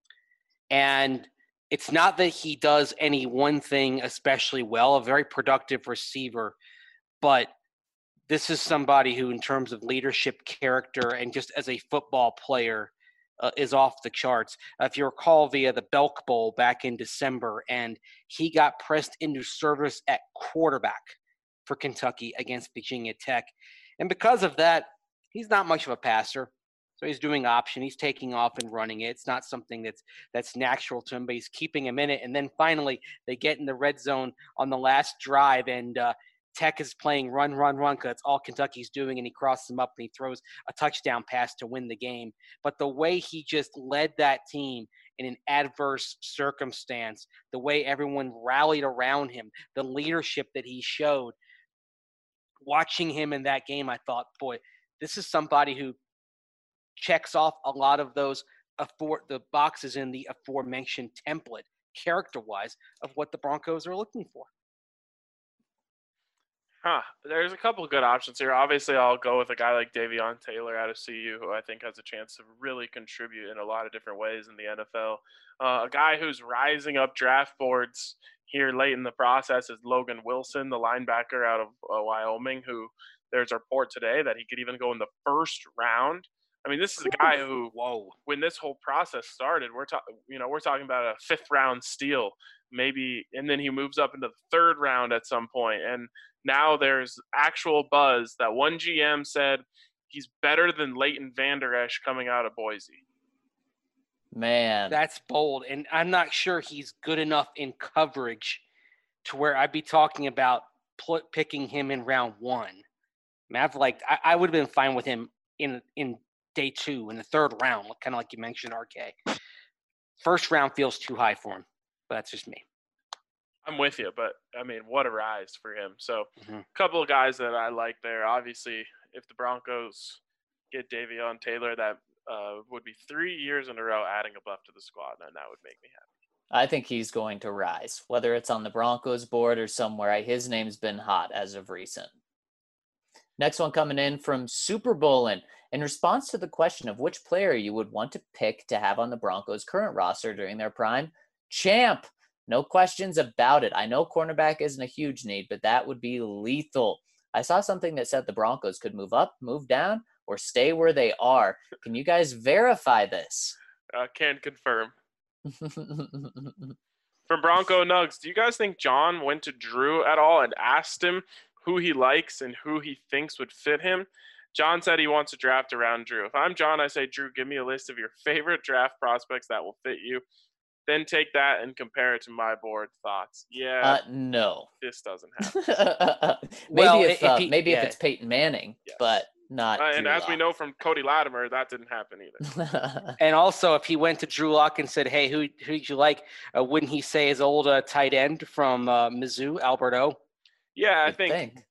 And it's not that he does any one thing especially well, a very productive receiver, but this is somebody who, in terms of leadership, character, and just as a football player, uh, is off the charts. Uh, if you recall, via the Belk Bowl back in December, and he got pressed into service at quarterback for Kentucky against Virginia Tech. And because of that, he's not much of a passer. So he's doing option. He's taking off and running it. It's not something that's that's natural to him, but he's keeping him in it. And then finally, they get in the red zone on the last drive, and uh, Tech is playing run, run, run, because that's all Kentucky's doing, and he crosses him up and he throws a touchdown pass to win the game. But the way he just led that team in an adverse circumstance, the way everyone rallied around him, the leadership that he showed, watching him in that game, I thought, boy, this is somebody who checks off a lot of those afore, the boxes in the aforementioned template, character-wise, of what the Broncos are looking for. Huh. There's a couple of good options here. Obviously, I'll go with a guy like Davion Taylor out of C U, who I think has a chance to really contribute in a lot of different ways in the N F L. Uh, a guy who's rising up draft boards here late in the process is Logan Wilson, the linebacker out of uh, Wyoming, who there's a report today that he could even go in the first round. I mean, this is a guy who, whoa, when this whole process started, we're talking, you know, we're talking about a fifth round steal, maybe, and then he moves up into the third round at some point. And now there's actual buzz that one G M said he's better than Leighton Vander Esch coming out of Boise. Man, that's bold, and I'm not sure he's good enough in coverage to where I'd be talking about pl- picking him in round one. I mean, I've liked, I, I would have been fine with him in in day two, in the third round, kind of like you mentioned, R K. First round feels too high for him, but that's just me. I'm with you, but I mean, what a rise for him. So Mm-hmm. a couple of guys that I like there. Obviously, if the Broncos get Davion Taylor, that uh, would be three years in a row adding a buff to the squad, and that would make me happy. I think he's going to rise, whether it's on the Broncos board or somewhere. His name's been hot as of recent. Next one coming in from Super Bowlin. In response to the question of which player you would want to pick to have on the Broncos' current roster during their prime, Champ. No questions about it. I know cornerback isn't a huge need, but that would be lethal. I saw something that said the Broncos could move up, move down, or stay where they are. Can you guys verify this? I uh, can confirm. From Bronco Nugs, do you guys think John went to Drew at all and asked him who he likes and who he thinks would fit him? John said he wants to draft around Drew. If I'm John, I say, Drew, give me a list of your favorite draft prospects that will fit you. then take that and compare it to my board thoughts. Yeah, Uh, no. this doesn't happen. maybe Well, if, if uh, he- maybe if yeah. it's Peyton Manning, Yes. but not. Uh, and Drew as we Lock. know from Cody Latimer, that didn't happen either. And also, if he went to Drew Lock and said, "Hey, who who would you like?" Uh, wouldn't he say his old uh, tight end from uh, Mizzou, Alberto? Yeah, I You'd think, think.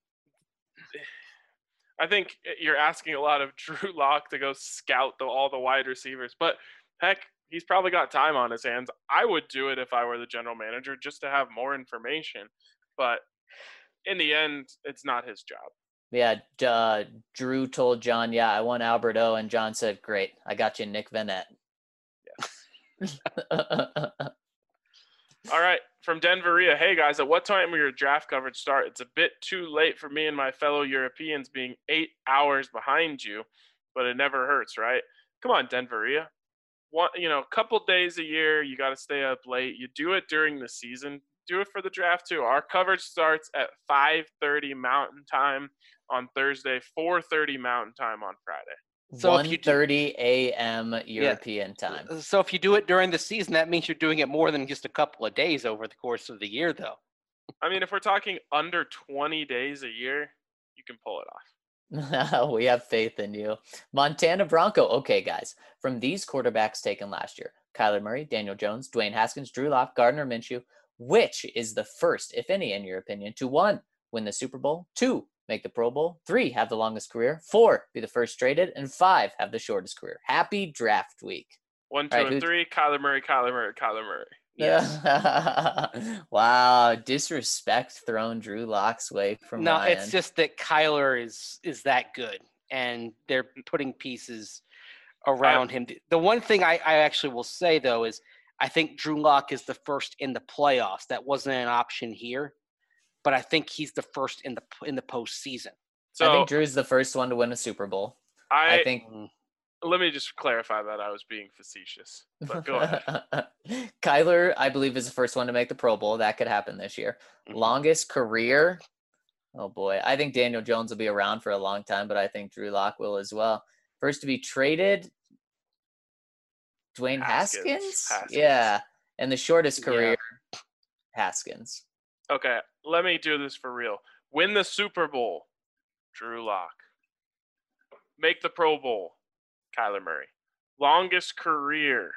I think you're asking a lot of Drew Lock to go scout the, all the wide receivers, but heck, he's probably got time on his hands. I would do it if I were the general manager just to have more information, but in the end, it's not his job. Yeah, uh, Drew told John, "Yeah, I want Alberto," and John said, "Great, I got you, Nick Vanette." Yes. All right, from Denveria. Hey guys, at what time will your draft coverage start? It's a bit too late for me and my fellow Europeans being eight hours behind you, but it never hurts, right? Come on, Denveria. One, you know, a couple days a year, you got to stay up late. You do it during the season. Do it for the draft too. Our coverage starts at five thirty Mountain Time on Thursday, four thirty Mountain Time on Friday. So if one you do- thirty a.m. European time. So if you do it during the season, that means you're doing it more than just a couple of days over the course of the year, though. I mean, if we're talking under twenty days a year, you can pull it off. We have faith in you. Montana Bronco. Okay, guys. From these quarterbacks taken last year, Kyler Murray, Daniel Jones, Dwayne Haskins, Drew Lock, Gardner Minshew, which is the first, if any, in your opinion, to one, win the Super Bowl, two, make the Pro Bowl, three, have the longest career, four, be the first traded, and five, have the shortest career? Happy draft week. One, two, All right, and who- three. Kyler Murray, Kyler Murray, Kyler Murray. Yes. Wow, disrespect thrown Drew Lock's way from No, Ryan. it's just that Kyler is is that good, and they're putting pieces around him. The one thing I, I actually will say though is I think Drew Lock is the first in the playoffs. That wasn't an option here, but I think he's the first in the in the postseason. So I think Drew's the first one to win a Super Bowl. I, I think let me just clarify that I was being facetious. But go ahead. Kyler, I believe, is the first one to make the Pro Bowl. That could happen this year. Mhm. Longest career. Oh boy. I think Daniel Jones will be around for a long time, but I think Drew Lock will as well. First to be traded, Dwayne Haskins. Haskins? Haskins. Yeah. And the shortest Yeah. career, Haskins. Okay, let me do this for real. Win the Super Bowl, Drew Lock. Make the Pro Bowl, Kyler Murray. Longest career,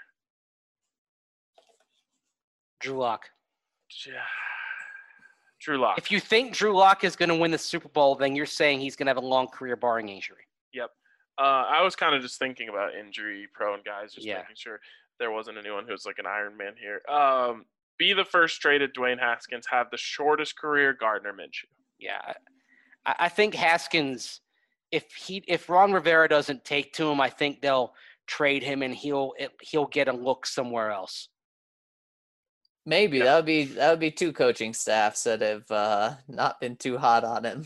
Drew Lock. Drew Lock. If you think Drew Lock is going to win the Super Bowl, then you're saying he's going to have a long career barring injury. Yep. Uh, I was kind of just thinking about injury-prone guys, just Yeah. making sure there wasn't anyone who was like an Iron Man here. Um, be the first traded Dwayne Haskins. Have the shortest career, Gardner Minshew. Yeah, I, I think Haskins, if he if Ron Rivera doesn't take to him, I think they'll trade him and he'll it, he'll get a look somewhere else. Maybe Yeah. that would be that would be two coaching staffs that have uh, not been too hot on him.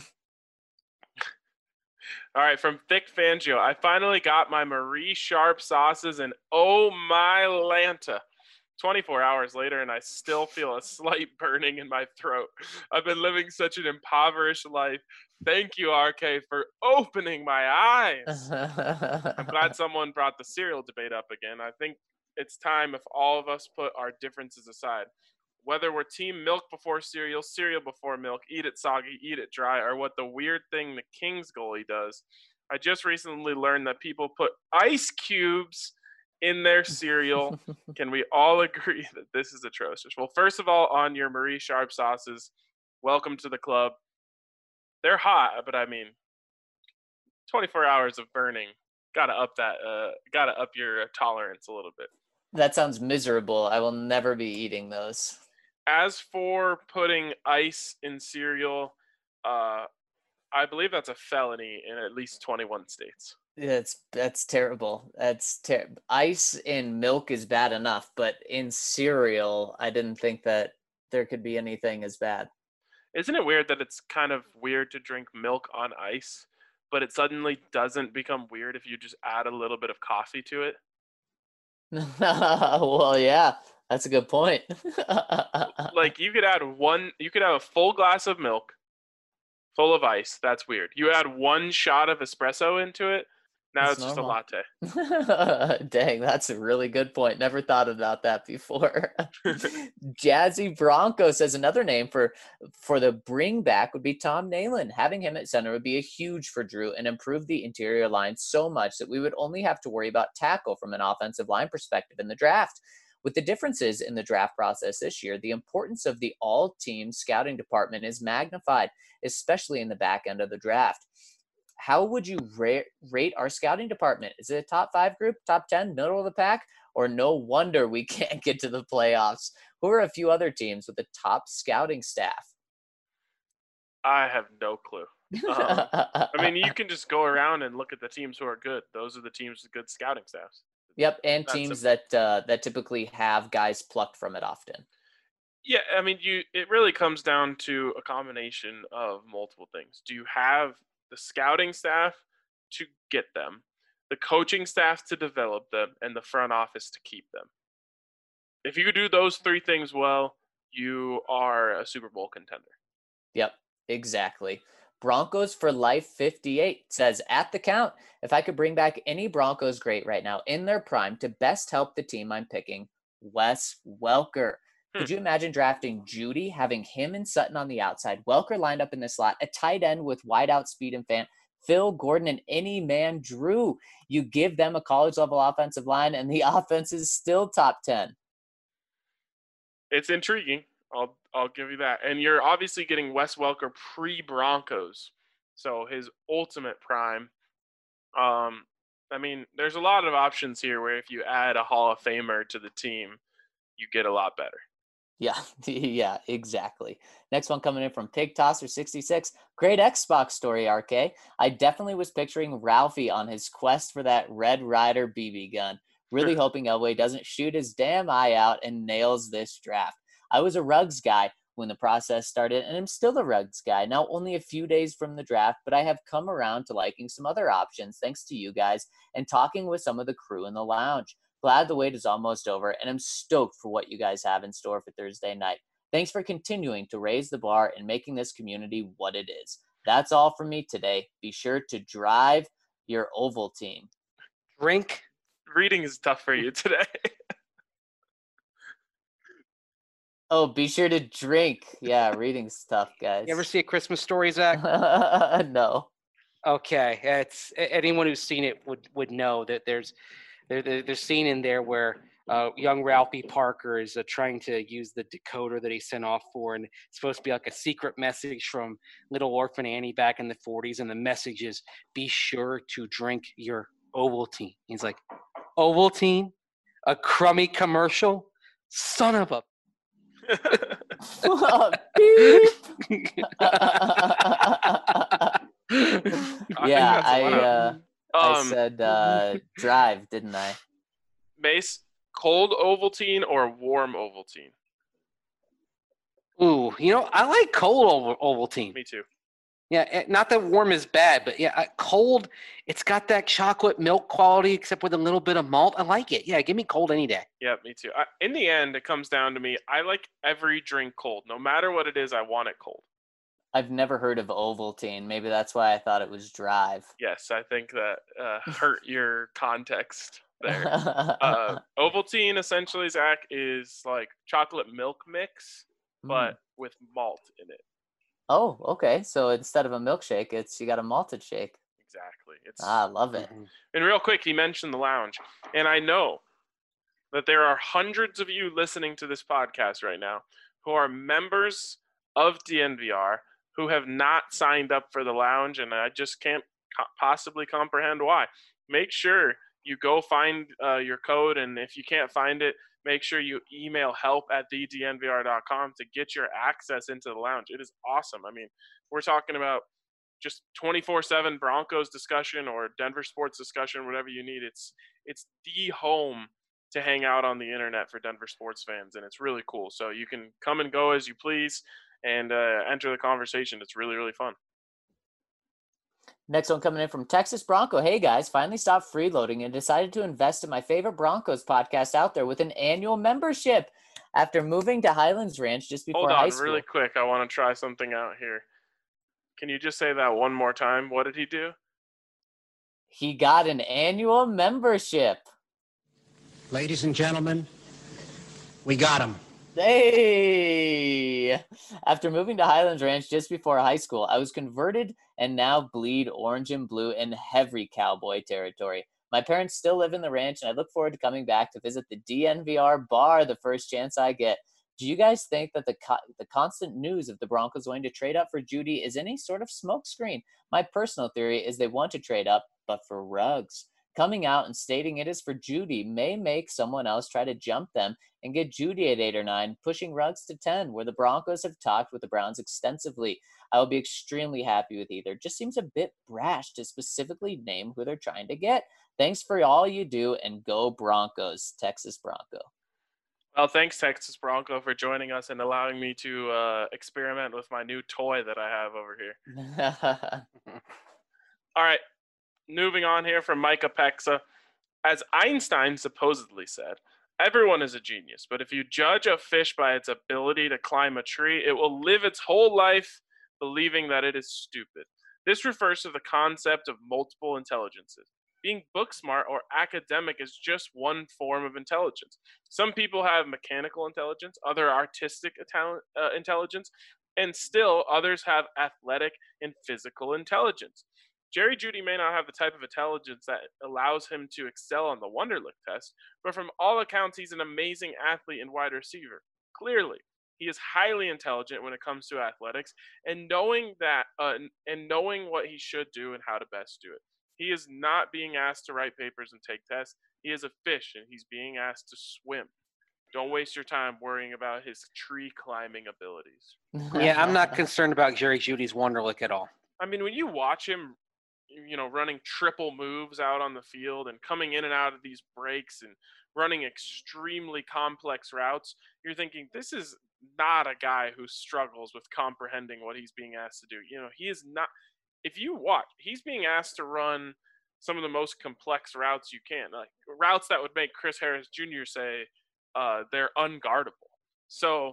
All right, from Thick Fangio, I finally got my Marie Sharp sauces, and oh my Lanta. twenty-four hours later, and I still feel a slight burning in my throat. I've been living such an impoverished life. Thank you, R K, for opening my eyes. I'm glad someone brought the cereal debate up again. I think it's time if all of us put our differences aside. Whether we're team milk before cereal, cereal before milk, eat it soggy, eat it dry, or what the weird thing the Kings goalie does. I just recently learned that people put ice cubes in their cereal. Can we all agree that this is atrocious? Well, first of all, on your Marie Sharp sauces, welcome to the club. They're hot, but I mean, twenty-four hours of burning. Gotta up that. Uh, gotta up your tolerance a little bit. That sounds miserable. I will never be eating those. As for putting ice in cereal, uh, I believe that's a felony in at least twenty-one states. That's that's terrible. That's ter- ice in milk is bad enough, but in cereal, I didn't think that there could be anything as bad. Isn't it weird that it's kind of weird to drink milk on ice, but it suddenly doesn't become weird if you just add a little bit of coffee to it? Well, yeah, that's a good point. Like you could add one, you could have a full glass of milk full of ice. That's weird. You add one shot of espresso into it. Now It's it's just a normal. latte. Dang, that's a really good point. Never thought about that before. Jazzy Bronco says another name for for the bring back would be Tom Nalen. Having him at center would be a huge for Drew and improve the interior line so much that we would only have to worry about tackle from an offensive line perspective in the draft. With the differences in the draft process this year, the importance of the all team scouting department is magnified, especially in the back end of the draft. How would you rate, rate our scouting department? Is it a top five group, top ten, middle of the pack? Or no wonder we can't get to the playoffs? Who are a few other teams with a top scouting staff? I have no clue. Um, I mean, you can just go around and look at the teams who are good. Those are the teams with good scouting staffs. Yep, and That's teams simple. that uh, that typically have guys plucked from it often. Yeah, I mean, you. It really comes down to a combination of multiple things. Do you have the scouting staff to get them, the coaching staff to develop them, and the front office to keep them? If you do those three things well, you are a Super Bowl contender. Yep, exactly. Broncos for Life fifty-eight says, at the count, if I could bring back any Broncos great right now in their prime to best help the team I'm picking, Wes Welker. Hmm. Could you imagine drafting Judy, having him and Sutton on the outside, Welker lined up in the slot, a tight end with wideout speed and fan, Phil Gordon and any man Drew? You give them a college level offensive line and the offense is still top ten. It's intriguing. I'll I'll give you that. And you're obviously getting Wes Welker pre-Broncos, so his ultimate prime. Um, I mean, there's a lot of options here where if you add a Hall of Famer to the team, you get a lot better. Yeah, yeah, exactly. Next one coming in from Pig Tosser sixty-six. Great Xbox story, R K. I definitely was picturing Ralphie on his quest for that Red Ryder B B gun. Really hoping Elway doesn't shoot his damn eye out and nails this draft. I was a Ruggs guy when the process started, and I'm still a Ruggs guy. Now only a few days from the draft, but I have come around to liking some other options thanks to you guys and talking with some of the crew in the lounge. Glad the wait is almost over, and I'm stoked for what you guys have in store for Thursday night. Thanks for continuing to raise the bar and making this community what it is. That's all from me today. Be sure to drive your Oval team. Drink. Reading is tough for you today. Oh, be sure to drink. Yeah, reading's tough, guys. You ever see A Christmas Story, Zach? No. Okay, it's anyone who's seen it would would know that there's there, there there's scene in there where uh, young Ralphie Parker is uh, trying to use the decoder that he sent off for, and it's supposed to be like a secret message from Little Orphan Annie back in the forties, and the message is, "Be sure to drink your Ovaltine." He's like, "Ovaltine, a crummy commercial, son of a." Beep. I Yeah, think that's I allowed. uh, I Um, said uh, drive, didn't I? Mace, cold Ovaltine or warm Ovaltine? Ooh, you know, I like cold Oval- Ovaltine. Me too. Yeah, eh, not that warm is bad, but yeah, I- cold. It's got that chocolate milk quality, except with a little bit of malt. I like it. Yeah, give me cold any day. Yeah, me too. I, in the end, it comes down to me. I like every drink cold. No matter what it is, I want it cold. I've never heard of Ovaltine. Maybe that's why I thought it was drive. Yes, I think that uh, hurt your context there. Uh, Ovaltine, essentially, Zach, is like chocolate milk mix, but Mm. with malt in it. Oh, okay. So instead of a milkshake, it's you got a malted shake. Exactly. It's Ah, I love it. Mhm. And real quick, he mentioned the lounge, and I know that there are hundreds of you listening to this podcast right now who are members of D N V R who have not signed up for the lounge, and I just can't co- possibly comprehend why. Make sure you go find uh, your code, and if you can't find it, make sure you email help at the d n v r dot com to get your access into the lounge. It is awesome. I mean, we're talking about just twenty-four seven Broncos discussion or Denver sports discussion, whatever you need. It's it's the home to hang out on the internet for Denver sports fans, and it's really cool. So you can come and go as you please and uh, enter the conversation. It's really, really fun. Next one coming in from Texas Bronco. Hey guys, finally stopped freeloading and decided to invest in my favorite Broncos podcast out there with an annual membership. After moving to Highlands Ranch just before Hold high on, school. really quick. I want to try something out here. Can you just say that one more time? What did he do? He got an annual membership. Ladies and gentlemen, we got him. Hey! After moving to Highlands Ranch just before high school, I was converted and now bleed orange and blue in heavy cowboy territory. My parents still live in the ranch, and I look forward to coming back to visit the D N V R bar the first chance I get. Do you guys think that the co- the constant news of the Broncos going to trade up for Jeudy is any sort of smokescreen? My personal theory is they want to trade up, but for Ruggs. Coming out and stating it is for Jeudy may make someone else try to jump them and get Jeudy at eight or nine, pushing Ruggs to ten, where the Broncos have talked with the Browns extensively. I will be extremely happy with either. Just seems a bit brash to specifically name who they're trying to get. Thanks for all you do, and go Broncos, Texas Bronco. Well, thanks, Texas Bronco, for joining us and allowing me to uh, experiment with my new toy that I have over here. All right, moving on here from Micah Pexa. As Einstein supposedly said, everyone is a genius, but if you judge a fish by its ability to climb a tree, it will live its whole life believing that it is stupid. This refers to the concept of multiple intelligences. Being book smart or academic is just one form of intelligence. Some people have mechanical intelligence, other artistic talent, uh, intelligence, and still others have athletic and physical intelligence. Jerry Jeudy may not have the type of intelligence that allows him to excel on the Wonderlic test, but from all accounts, he's an amazing athlete and wide receiver. Clearly, he is highly intelligent when it comes to athletics, and knowing that, uh, and knowing what he should do and how to best do it. He is not being asked to write papers and take tests. He is a fish, and he's being asked to swim. Don't waste your time worrying about his tree climbing abilities. Yeah, I'm not concerned about Jerry Jeudy's Wonderlic at all. I mean, when you watch him, you know, running triple moves out on the field and coming in and out of these breaks and running extremely complex routes, you're thinking, this is not a guy who struggles with comprehending what he's being asked to do. You know, he is not – if you watch, he's being asked to run some of the most complex routes you can, like routes that would make Chris Harris Junior say uh, they're unguardable. So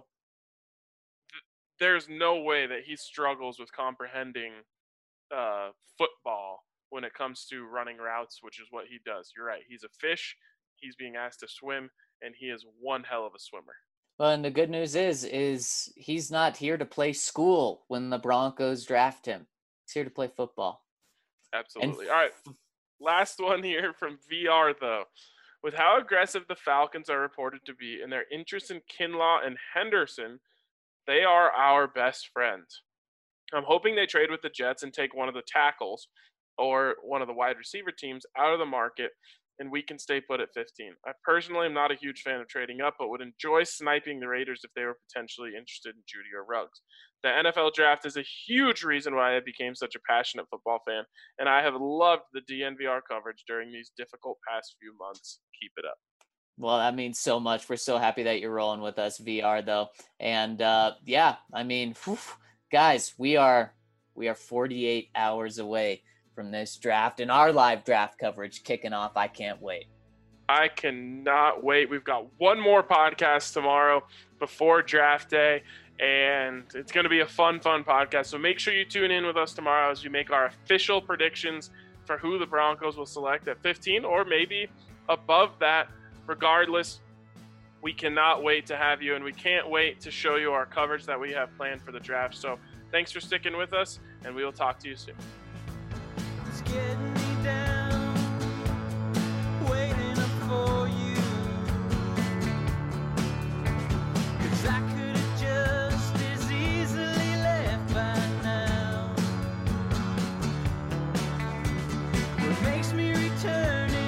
th- there's no way that he struggles with comprehending uh, football when it comes to running routes, which is what he does. You're right. He's a fish. He's being asked to swim, and he is one hell of a swimmer. Well, and the good news is, is he's not here to play school when the Broncos draft him. He's here to play football. Absolutely. And all right. Last one here from V R, though. With how aggressive the Falcons are reported to be and their interest in Kinlaw and Henderson, they are our best friends. I'm hoping they trade with the Jets and take one of the tackles or one of the wide receiver teams out of the market, and we can stay put at fifteen. I personally am not a huge fan of trading up, but would enjoy sniping the Raiders if they were potentially interested in Jeudy or Ruggs. The N F L draft is a huge reason why I became such a passionate football fan, and I have loved the D N V R coverage during these difficult past few months. Keep it up. Well, that means so much. We're so happy that you're rolling with us, V R, though. And uh, yeah, I mean, whew, guys, we are we are forty-eight hours away from this draft and our live draft coverage kicking off. I can't wait. I cannot wait. We've got one more podcast tomorrow before draft day, and it's going to be a fun, fun podcast. So make sure you tune in with us tomorrow as we make our official predictions for who the Broncos will select at fifteen or maybe above that. Regardless, we cannot wait to have you, and we can't wait to show you our coverage that we have planned for the draft. So thanks for sticking with us, and we will talk to you soon. It's getting me down, waiting up for you. 'Cause I could have just as easily left by now. What makes me return